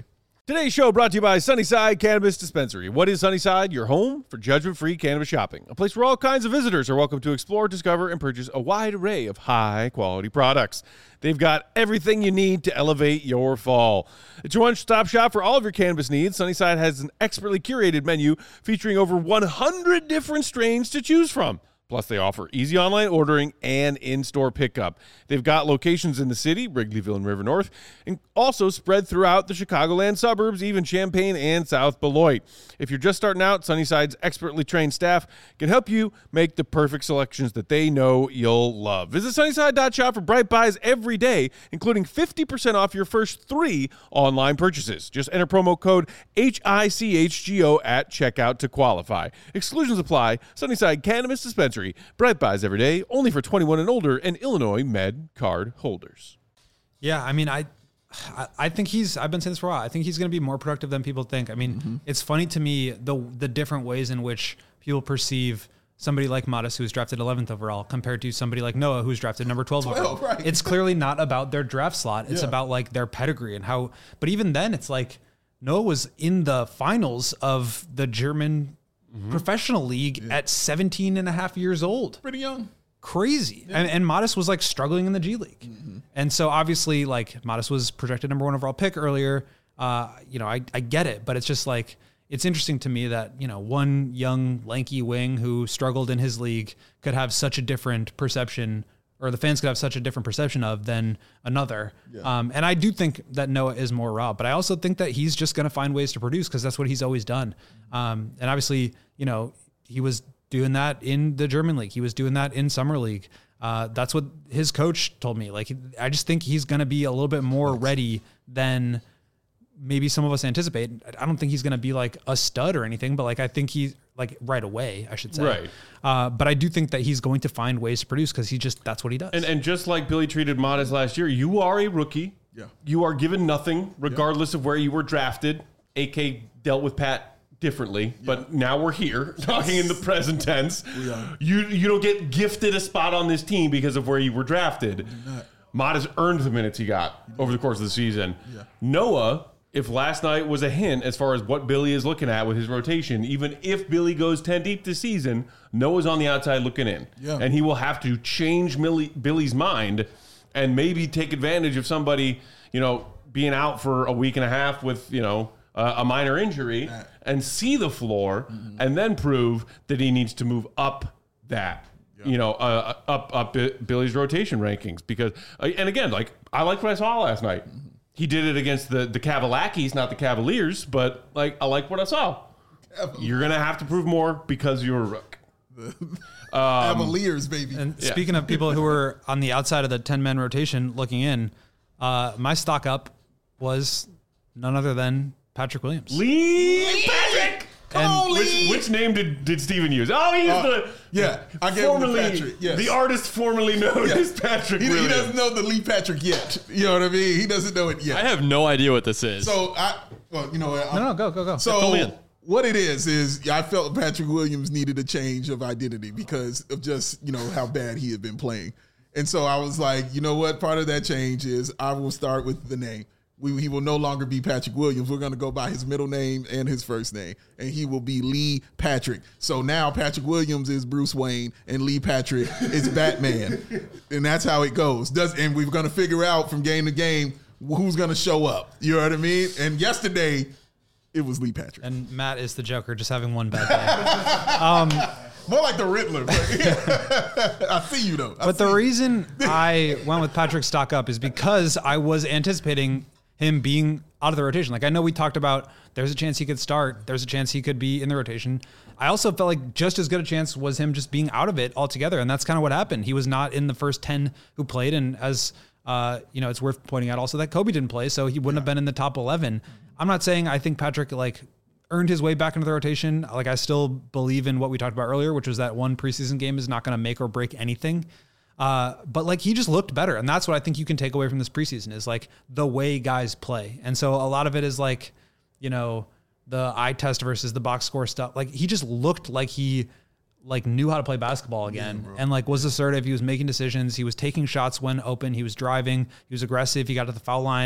Today's show brought to you by Sunnyside Cannabis Dispensary. What is Sunnyside? Your home for judgment-free cannabis shopping. A place where all kinds of visitors are welcome to explore, discover, and purchase a wide array of high-quality products. They've got everything you need to elevate your fall. It's your one-stop shop for all of your cannabis needs. Sunnyside has an expertly curated menu featuring over one hundred different strains to choose from. Plus, they offer easy online ordering and in-store pickup. They've got locations in the city, Wrigleyville and River North, and also spread throughout the Chicagoland suburbs, even Champaign and South Beloit. If you're just starting out, Sunnyside's expertly trained staff can help you make the perfect selections that they know you'll love. Visit Sunnyside dot shop for bright buys every day, including fifty percent off your first three online purchases. Just enter promo code H I C H G O at checkout to qualify. Exclusions apply. Sunnyside Cannabis Dispensary. Bright buys every day, only for twenty-one and older and Illinois Med card holders. Yeah, I mean, I, I, I think he's. I've been saying this for a while. I think he's going to be more productive than people think. I mean, mm-hmm. It's funny to me the the different ways in which people perceive somebody like Modest, who's drafted eleventh overall, compared to somebody like Noah, who's drafted number twelve, twelve overall. Right. It's clearly not about their draft slot. It's yeah. about like their pedigree and how. But even then, it's like Noah was in the finals of the German Mm-hmm. professional league yeah. at seventeen and a half years old. Pretty young. Crazy. Yeah. And, and Modest was like struggling in the G League. Mm-hmm. And so obviously like Modest was projected number one overall pick earlier. Uh, you know, I, I get it, but it's just like, it's interesting to me that, you know, one young lanky wing who struggled in his league could have such a different perception, or the fans could have such a different perception of than another. Yeah. Um, and I do think that Noah is more raw, but I also think that he's just going to find ways to produce because that's what he's always done. Um, and obviously, you know, he was doing that in the German league. He was doing that in summer league. Uh, that's what his coach told me. Like, I just think he's going to be a little bit more ready than maybe some of us anticipate. I don't think he's going to be like a stud or anything, but like, I think he's like right away, I should say. Right. Uh, but I do think that he's going to find ways to produce because he just, that's what he does. And and just like Billy treated Modest last year, you are a rookie. Yeah. You are given nothing regardless yeah. of where you were drafted. A K dealt with Pat differently, yeah. but now we're here talking in the present tense. Yeah. You you don't get gifted a spot on this team because of where you were drafted. Modest earned the minutes he got over the course of the season. Yeah. Noah, if last night was a hint as far as what Billy is looking at with his rotation, even if Billy goes ten deep this season, Noah's on the outside looking in. Yeah. And he will have to change Millie, Billy's mind and maybe take advantage of somebody, you know, being out for a week and a half with, you know, uh, a minor injury and see the floor mm-hmm. and then prove that he needs to move up that. Yeah. You know, uh, up up Billy's rotation rankings because, uh, and again, like I liked what I saw last night. Mm-hmm. He did it against the the Cavalakis, not the Cavaliers, but like I like what I saw. You're gonna have to prove more because you're a rook. um, Cavaliers, baby. And yeah. speaking of people who were on the outside of the ten man rotation looking in, uh, my stock up was none other than Patrick Williams. Lee, Lee! Patrick. Come and on, Lee. Which, which name did, did Steven use? Oh, he used uh, the yeah. I gave formerly him the Patrick. Yes. the artist formerly known yes. as Patrick. He, Williams. he doesn't know the Lee Patrick yet. You know what I mean? He doesn't know it yet. I have no idea what this is. So I, well, you know what? No, no, go, go, go. So Fill me in. what it is is I felt Patrick Williams needed a change of identity because of just you know how bad he had been playing, and so I was like, you know what? Part of that change is I will start with the name. We, he will no longer be Patrick Williams. We're going to go by his middle name and his first name, and he will be Lee Patrick. So now Patrick Williams is Bruce Wayne, and Lee Patrick is Batman, and that's how it goes. Does and we're going to figure out from game to game who's going to show up. You know what I mean? And yesterday, it was Lee Patrick. And Matt is the Joker, just having one bad day. um, More like the Riddler. But I see you though. I but the you. reason I went with Patrick stock up is because I was anticipating him being out of the rotation. Like I know we talked about there's a chance he could start. There's a chance he could be in the rotation. I also felt like just as good a chance was him just being out of it altogether. And that's kind of what happened. He was not in the first ten who played. And as uh, you know, it's worth pointing out also that Kobe didn't play. So he wouldn't yeah. have been in the top eleven. I'm not saying I think Patrick like earned his way back into the rotation. Like I still believe in what we talked about earlier, which was that one preseason game is not going to make or break anything. Uh, but like he just looked better. And that's what I think you can take away from this preseason is like the way guys play. And so a lot of it is like, you know, the eye test versus the box score stuff. Like he just looked like he like knew how to play basketball again yeah, and like was assertive. He was making decisions. He was taking shots when open. He was driving. He was aggressive. He got to the foul line.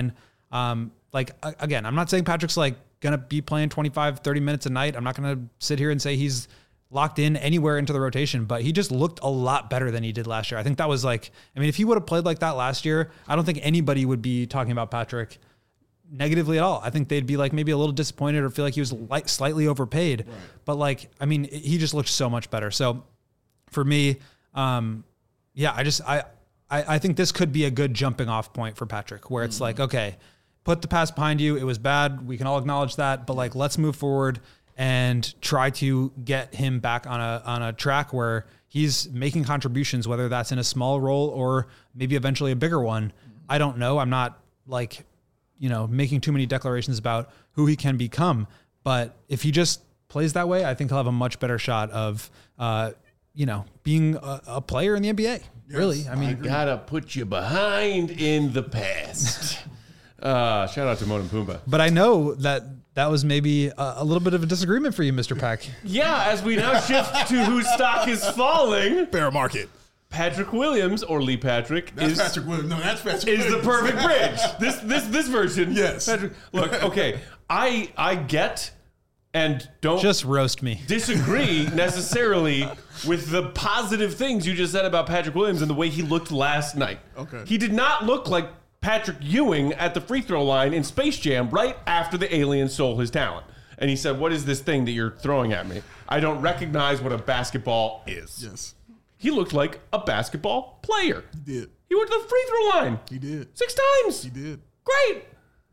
Um, like, again, I'm not saying Patrick's like going to be playing twenty-five, thirty minutes a night. I'm not going to sit here and say he's locked in anywhere into the rotation, but he just looked a lot better than he did last year. I think that was like, I mean, if he would have played like that last year, I don't think anybody would be talking about Patrick negatively at all. I think they'd be like maybe a little disappointed or feel like he was like slightly overpaid, right. But like, I mean, he just looked so much better. So for me, um, yeah, I just, I, I, I think this could be a good jumping off point for Patrick where it's mm-hmm. like, okay, put the past behind you. It was bad. We can all acknowledge that, but like, let's move forward and try to get him back on a, on a track where he's making contributions, whether that's in a small role or maybe eventually a bigger one. I don't know. I'm not like, you know, making too many declarations about who he can become. But if he just plays that way, I think he'll have a much better shot of, uh, you know, being a, a player in the N B A. Yes, really. I mean, I gotta put you behind in the past. uh, shout out to Timon and Pumbaa. But I know that that was maybe a, a little bit of a disagreement for you, Mister Pack. Yeah, as we now shift to whose stock is falling. Bear market. Patrick Williams or Lee Patrick that's is Patrick Williams. No, that's Patrick is Williams. the perfect bridge. This this this version. Yes. Patrick, look, okay. I I get and don't just roast me. Disagree necessarily with the positive things you just said about Patrick Williams and the way he looked last night. Okay. He did not look like Patrick Ewing at the free throw line in Space Jam right after the alien stole his talent. And he said, "What is this thing that you're throwing at me? I don't recognize what a basketball is." Yes. He looked like a basketball player. He did. He went to the free throw line. He did. Six times. He did. Great.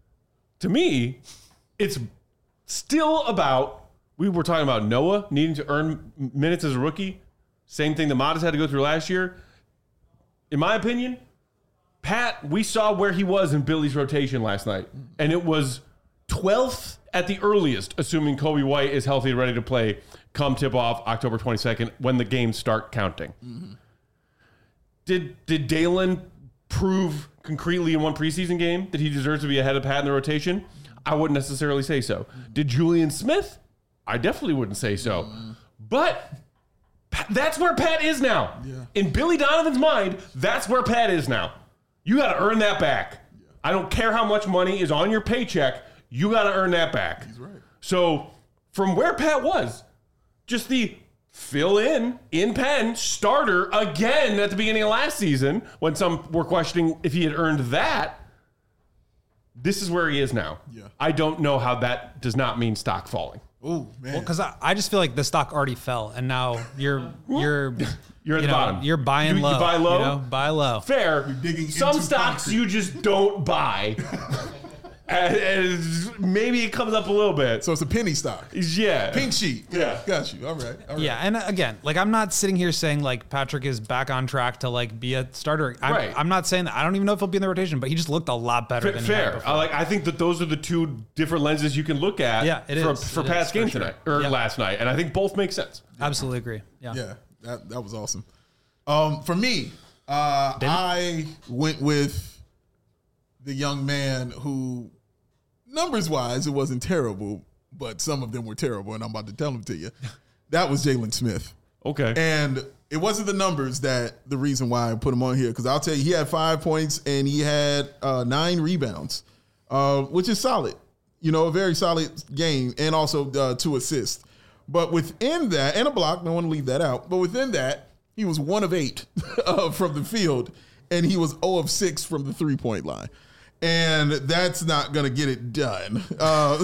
To me, it's still about, we were talking about Noah needing to earn minutes as a rookie. Same thing that Modest had to go through last year. In my opinion, Pat, we saw where he was in Billy's rotation last night. And it was twelfth at the earliest, assuming Kobe White is healthy and ready to play come tip-off October twenty-second when the games start counting. Mm-hmm. Did did Dalen prove concretely in one preseason game that he deserves to be ahead of Pat in the rotation? I wouldn't necessarily say so. Mm-hmm. Did Julian Smith? I definitely wouldn't say so. Mm-hmm. But that's where Pat is now. Yeah. In Billy Donovan's mind, that's where Pat is now. You got to earn that back. Yeah. I don't care how much money is on your paycheck. You got to earn that back. He's right. So from where Pat was, just the fill in, in Penn, starter again at the beginning of last season when some were questioning if he had earned that, this is where he is now. Yeah. I don't know how that does not mean stock falling. Oh, man. Well, because I, I just feel like the stock already fell, and now you're you're you're at you the know, bottom. You're buying you, low. You buy low. You know, buy low. Fair. You're digging Some into stocks concrete. you just don't buy. and, and maybe it comes up a little bit. So it's a penny stock. Yeah. Pink sheet. Yeah. Got you. All right. All right. Yeah, and again, like I'm not sitting here saying like Patrick is back on track to like be a starter. I'm, Right. I'm not saying that. I don't even know if he'll be in the rotation, but he just looked a lot better than he had Fair. before. I like. I think that those are the two different lenses you can look at. Yeah, it for, is. for It Pat's is, game for sure. tonight or Yeah. last night, and I think both make sense. Absolutely agree. Yeah. Yeah. That that was awesome. Um, for me, uh, I went with the young man who, numbers wise, it wasn't terrible, but some of them were terrible, and I'm about to tell them to you. That was Jalen Smith. Okay. And it wasn't the numbers that the reason why I put him on here, because I'll tell you, he had five points and he had uh, nine rebounds, uh, which is solid. You know, a very solid game, and also uh, two assists. But within that, and a block, don't want to leave that out, but within that, he was one of eight uh, from the field, and he was zero of six from the three-point line. And that's not going to get it done. Uh,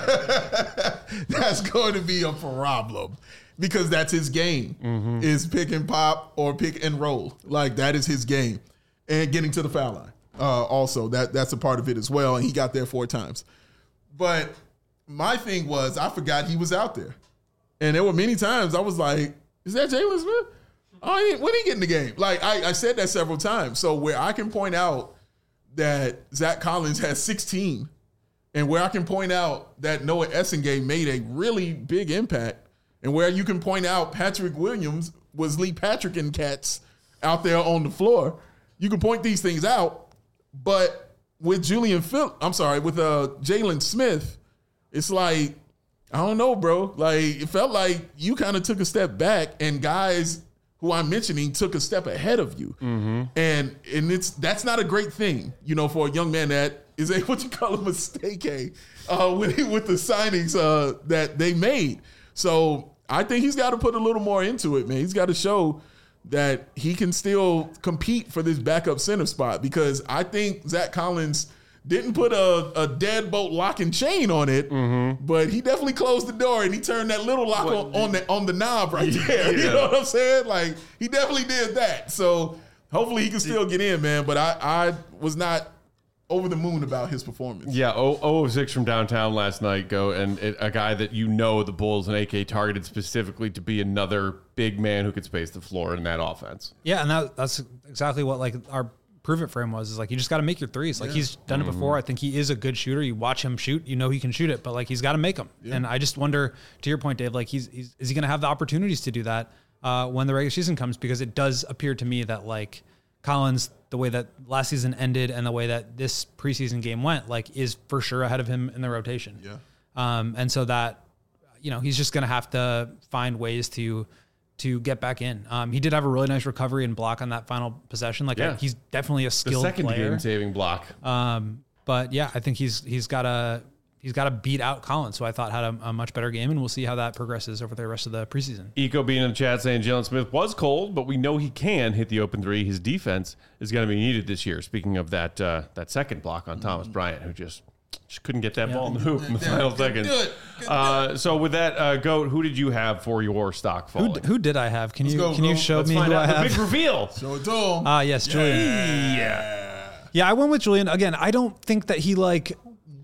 that's going to be a problem because that's his game, mm-hmm. is pick and pop or pick and roll. Like, that is his game. And getting to the foul line. Uh, also, that that's a part of it as well, and he got there four times. But my thing was, I forgot he was out there. And there were many times I was like, is that Jalen Smith? Oh, he, when he get in the game? Like, I, I said that several times. So where I can point out that Zach Collins has sixteen, and where I can point out that Noah Essengate made a really big impact, and where you can point out Patrick Williams was Lee Patrick and cats out there on the floor, you can point these things out. But with Julian Phil, I'm sorry, with uh, Jalen Smith, it's like, I don't know, bro. Like, it felt like you kind of took a step back, and guys who I'm mentioning took a step ahead of you. Mm-hmm. And and it's that's not a great thing, you know, for a young man that is a what you call a mistake uh, with with the signings uh, that they made. So I think he's got to put a little more into it, man. He's got to show that he can still compete for this backup center spot, because I think Zach Collins didn't put a, a deadbolt lock and chain on it, mm-hmm. but he definitely closed the door and he turned that little lock what, on, on the on the knob right there. Yeah. You know what I'm saying? Like, he definitely did that. So hopefully he can still get in, man. But I, I was not over the moon about his performance. Yeah, zero oh six from downtown last night, go, and it, a guy that you know the Bulls and A K targeted specifically to be another big man who could space the floor in that offense. Yeah, and that, that's exactly what like our prove it for him was, is like, you just got to make your threes. Like, yeah. he's done mm-hmm. it before. I think he is a good shooter. You watch him shoot, you know he can shoot it, but like, he's got to make them. Yeah. And I just wonder, to your point, Dave, like he's, he's is he going to have the opportunities to do that uh, when the regular season comes? Because it does appear to me that like Collins, the way that last season ended and the way that this preseason game went, like, is for sure ahead of him in the rotation. Yeah. Um, and so that, you know, he's just going to have to find ways to to get back in. Um, he did have a really nice recovery and block on that final possession. Like, yeah. he's definitely a skilled the second player. game saving block. Um, but yeah, I think he's he's got to he's got to beat out Collins, who I thought had a, a much better game, and we'll see how that progresses over the rest of the preseason. Eco being in the chat saying Jalen Smith was cold, but we know he can hit the open three. His defense is going to be needed this year. Speaking of that, uh, that second block on Thomas mm-hmm. Bryant, who just. Just couldn't get that yeah. ball in the hoop in the yeah. final seconds. Uh, so with that, uh, Goat, who did you have for your stock falling? Who, who did I have? Can Let's you go, can go. you show Let's me find who out I the have? big reveal. Show it to him. Ah, uh, yes, Julian. Yeah. yeah. Yeah, I went with Julian. Again, I don't think that he like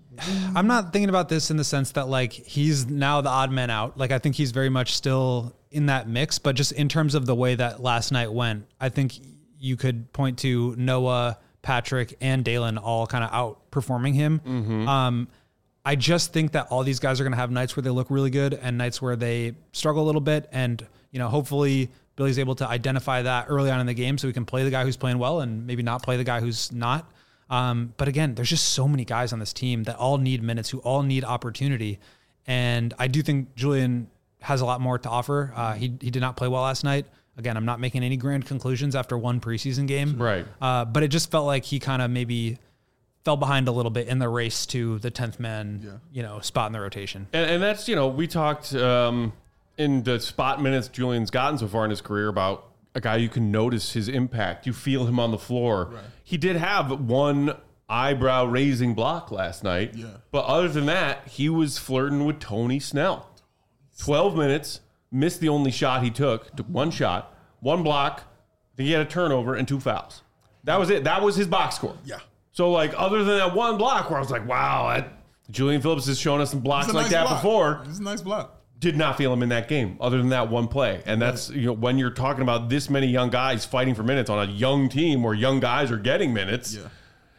I'm not thinking about this in the sense that like he's now the odd man out. Like, I think he's very much still in that mix, but just in terms of the way that last night went, I think you could point to Noah, Patrick, and Dalen all kind of outperforming him. Mm-hmm. Um, I just think that all these guys are going to have nights where they look really good and nights where they struggle a little bit. And, you know, hopefully Billy's able to identify that early on in the game so we can play the guy who's playing well and maybe not play the guy who's not. Um, but again, there's just so many guys on this team that all need minutes, who all need opportunity. And I do think Julian has a lot more to offer. Uh, he, he did not play well last night. Again, I'm not making any grand conclusions after one preseason game. Right. Uh, but it just felt like he kind of maybe fell behind a little bit in the race to the tenth man, yeah. you know, spot in the rotation. And, and that's, you know, we talked um, in the spot minutes Julian's gotten so far in his career about a guy you can notice his impact. You feel him on the floor. Right. He did have one eyebrow raising block last night. Yeah. But other than that, he was flirting with Tony Snell. twelve minutes, missed the only shot he took, took one shot, one block, then he had a turnover and two fouls. That was it. That was his box score. Yeah. So, like, other than that one block where I was like, wow, that, Julian Phillips has shown us some blocks like nice that block. before. It's a nice block. Did not feel him in that game, other than that one play. And that's, you know, when you're talking about this many young guys fighting for minutes on a young team where young guys are getting minutes, yeah.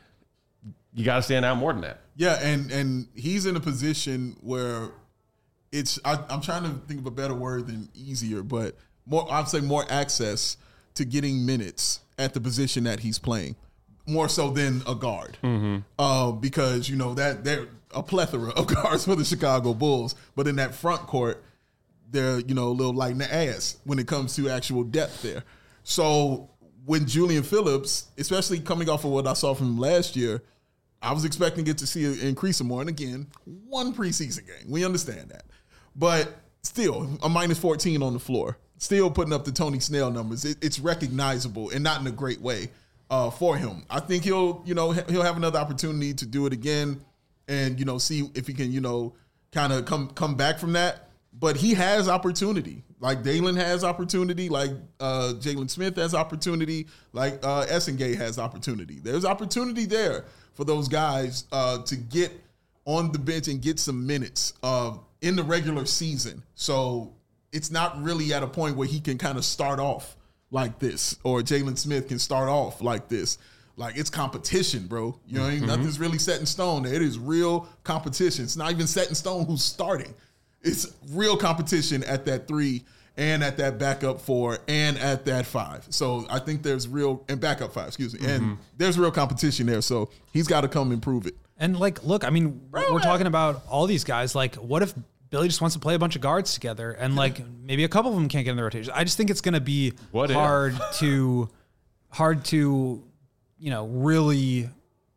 you got to stand out more than that. Yeah, and and he's in a position where it's, I, I'm trying to think of a better word than easier, but more, I'd say more access to getting minutes at the position that he's playing. More so than a guard, mm-hmm. uh, because you know that they're a plethora of guards for the Chicago Bulls, but in that front court, they're you know a little light in the ass when it comes to actual depth there. So when Julian Phillips, especially coming off of what I saw from him last year, I was expecting it to see an increase more. And again, one preseason game, we understand that, but still a minus fourteen on the floor, still putting up the Tony Snell numbers. It, it's recognizable and not in a great way. Uh, for him, I think he'll, you know, he'll have another opportunity to do it again, and you know, see if he can, you know, kind of come come back from that. But he has opportunity, like Dalen has opportunity, like uh, Jalen Smith has opportunity, like uh, Essengate has opportunity. There's opportunity there for those guys uh, to get on the bench and get some minutes uh, in the regular season. So it's not really at a point where he can kind of start off like this, or Jalen Smith can start off like this. Like, it's competition, bro. You know what I mean? Mm-hmm. Nothing's really set in stone. It is real competition. It's not even set in stone who's starting. It's real competition at that three and at that backup four and at that five. So I think there's real, and backup five, excuse me. Mm-hmm. And there's real competition there. So he's got to come and prove it. And like, look, I mean, bro, we're man. talking about all these guys. Like, what if Billy just wants to play a bunch of guards together, and like maybe a couple of them can't get in the rotation? I just think it's going to be what hard if? to, hard to, you know, really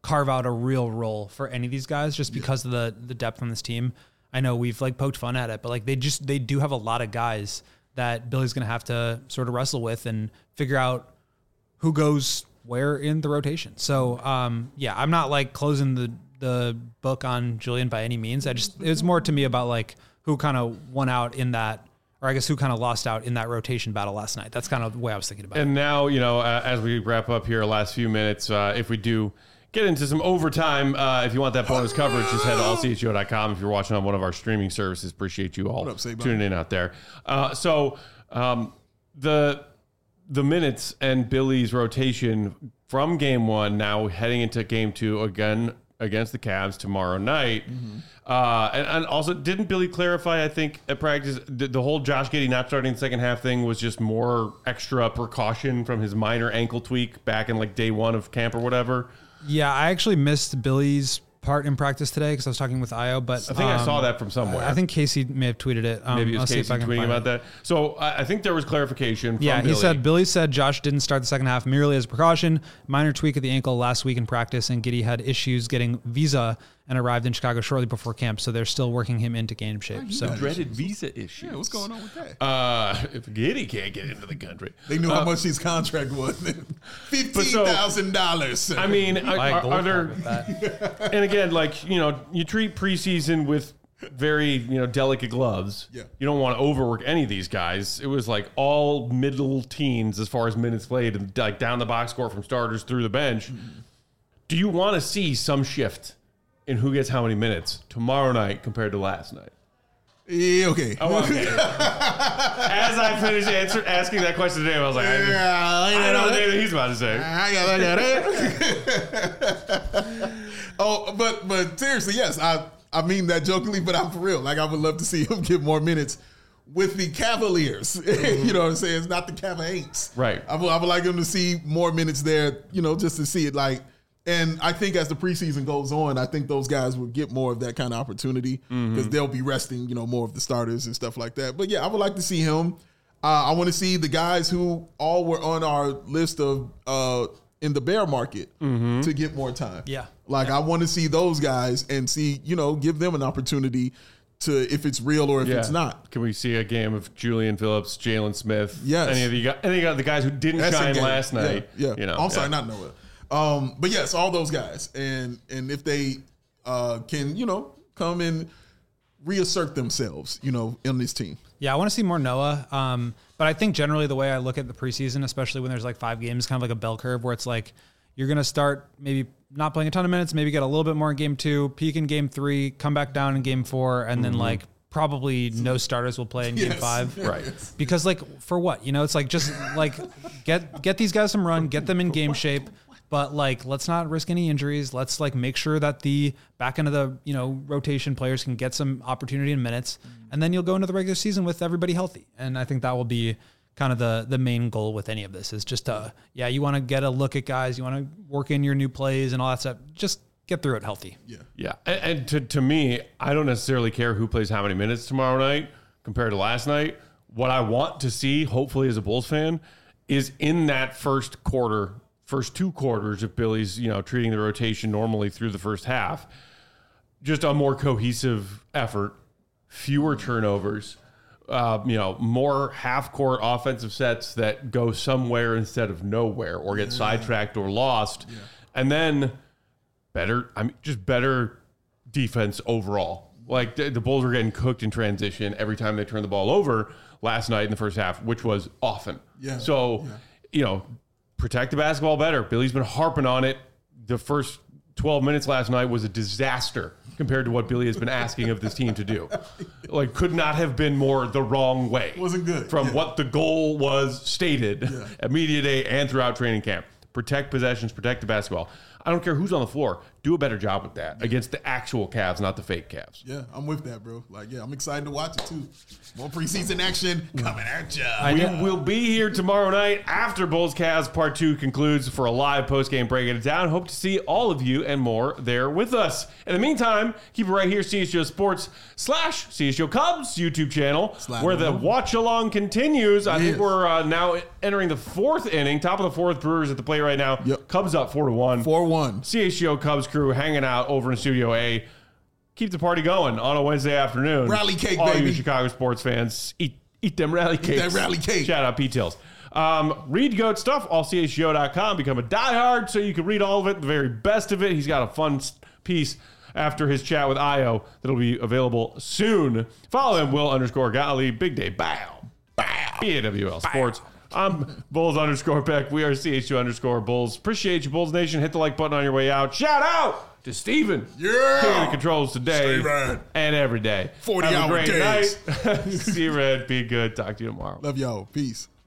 carve out a real role for any of these guys just because of the the depth on this team. I know we've like poked fun at it, but like they just they do have a lot of guys that Billy's going to have to sort of wrestle with and figure out who goes where in the rotation. So um, yeah, I'm not like closing the the book on Julian by any means. I just it was more to me about like who kind of won out in that. Or I guess who kind of lost out in that rotation battle last night. That's kind of the way I was thinking about and it. And now, you know, uh, as we wrap up here, last few minutes, uh, if we do get into some overtime, uh, if you want that bonus coverage, just head to all c h o dot com. If you're watching on one of our streaming services, appreciate you all up, tuning in out there. Uh, so um, the the minutes and Billy's rotation from game one, now heading into game two again against the Cavs tomorrow night. Mm-hmm. Uh, and, and also, didn't Billy clarify, I think, at practice, the, the whole Josh Giddey not starting the second half thing was just more extra precaution from his minor ankle tweak back in like day one of camp or whatever? Yeah, I actually missed Billy's part in practice today because I was talking with Io, but I think um, I saw that from somewhere. I think Casey may have tweeted it. Um, Maybe it was I'll Casey tweeting about it. that. So I, I think there was clarification from Yeah, Billy. he said, Billy said Josh didn't start the second half merely as a precaution. Minor tweak of the ankle last week in practice, and Giddey had issues getting visa and arrived in Chicago shortly before camp, so they're still working him into game shape. So dreaded visa issues. Yeah, what's going on with that? Uh, if Giddey can't get into the country. They knew uh, how much his contract was. fifteen thousand dollars. So, I mean, are, are, are there... And again, like, you know, you treat preseason with very, you know, delicate gloves. Yeah. You don't want to overwork any of these guys. It was like all middle teens as far as minutes played and like down the box score from starters through the bench. Mm-hmm. Do you want to see some shift in who gets how many minutes tomorrow night compared to last night? Yeah, okay. Oh, okay. As I finished answer, asking that question today, I was like, I, yeah, I don't know what David he's about to say. I got it. Oh, but but seriously, yes, I I mean that jokingly, but I'm for real. Like, I would love to see him get more minutes with the Cavaliers. Mm-hmm. You know what I'm saying? It's not the Cavaliers. Right. I would, I would like him to see more minutes there, you know, just to see it like. And I think as the preseason goes on, I think those guys will get more of that kind of opportunity because mm-hmm. they'll be resting, you know, more of the starters and stuff like that. But yeah, I would like to see him. Uh, I want to see the guys who all were on our list of uh, in the bear market mm-hmm. to get more time. Yeah. Like yeah. I want to see those guys and see, you know, give them an opportunity to if it's real or if yeah. it's not. Can we see a game of Julian Phillips, Jalen Smith? Yes. Any of the guys, any of the guys who didn't That's shine last night? Yeah. yeah. You know, I'm sorry, yeah. not Noah. Um, but yes, all those guys, and and if they uh, can, you know, come and reassert themselves, you know, in this team. Yeah, I want to see more Noah. Um, but I think generally the way I look at the preseason, especially when there's like five games, kind of like a bell curve where it's like you're going to start maybe not playing a ton of minutes, maybe get a little bit more in game two, peak in game three, come back down in game four, and mm-hmm. then like probably no starters will play in yes. game five. Right. Because like for what? You know, it's like just like get get these guys some run, get them in game shape. But like, let's not risk any injuries. Let's like make sure that the back end of the, you know, rotation players can get some opportunity in minutes, and then you'll go into the regular season with everybody healthy. And I think that will be kind of the the main goal with any of this is just uh yeah, you want to get a look at guys, you want to work in your new plays and all that stuff. Just get through it healthy. Yeah, yeah. And, and to to me, I don't necessarily care who plays how many minutes tomorrow night compared to last night. What I want to see, hopefully, as a Bulls fan, is in that first quarter. First two quarters, if Billy's, you know, treating the rotation normally through the first half, just a more cohesive effort, fewer turnovers, uh, you know, more half-court offensive sets that go somewhere instead of nowhere or get yeah. sidetracked or lost, yeah. and then better, I mean, just better defense overall. Like the, the Bulls were getting cooked in transition every time they turned the ball over last night in the first half, which was often. Yeah. So, yeah. you know. Protect the basketball better. Billy's been harping on it. The first twelve minutes last night was a disaster compared to what Billy has been asking of this team to do. Like, could not have been more the wrong way. Wasn't good. From yeah. what the goal was stated yeah. at media day and throughout training camp. Protect possessions, protect the basketball. I don't care who's on the floor. Do a better job with that yeah. against the actual Cavs, not the fake Cavs. Yeah, I'm with that, bro. Like, yeah, I'm excited to watch it, too. More preseason action coming at you. We will be here tomorrow night after Bulls Cavs Part two concludes for a live post-game breaking it down. Hope to see all of you and more there with us. In the meantime, keep it right here, C S G O Sports slash C S G O Cubs YouTube channel, Slide where the watch-along continues. I yes. think we're uh, now entering the fourth inning, top of the fourth. Brewers at the plate right now. Yep. Cubs up four to one. four one. one. C H G O Cubs crew hanging out over in Studio A. Keep the party going on a Wednesday afternoon. Rally cake, All baby. you Chicago sports fans, eat eat them rally cakes. that rally cake. Shout out P-Tills. Um, read Goat stuff, all C H G O dot com. Become a diehard so you can read all of it, the very best of it. He's got a fun piece after his chat with Io that'll be available soon. Follow him, Will underscore Gottlieb. Big day. Bow. Bow. B A W L Sports. I'm Bulls underscore Peck. We are C H G O underscore Bulls. Appreciate you, Bulls Nation. Hit the like button on your way out. Shout out to Steven. Yeah. King of the controls today Steven. and every day. forty Have hour a great days. night. See you, Red. Be good. Talk to you tomorrow. Love y'all. Peace.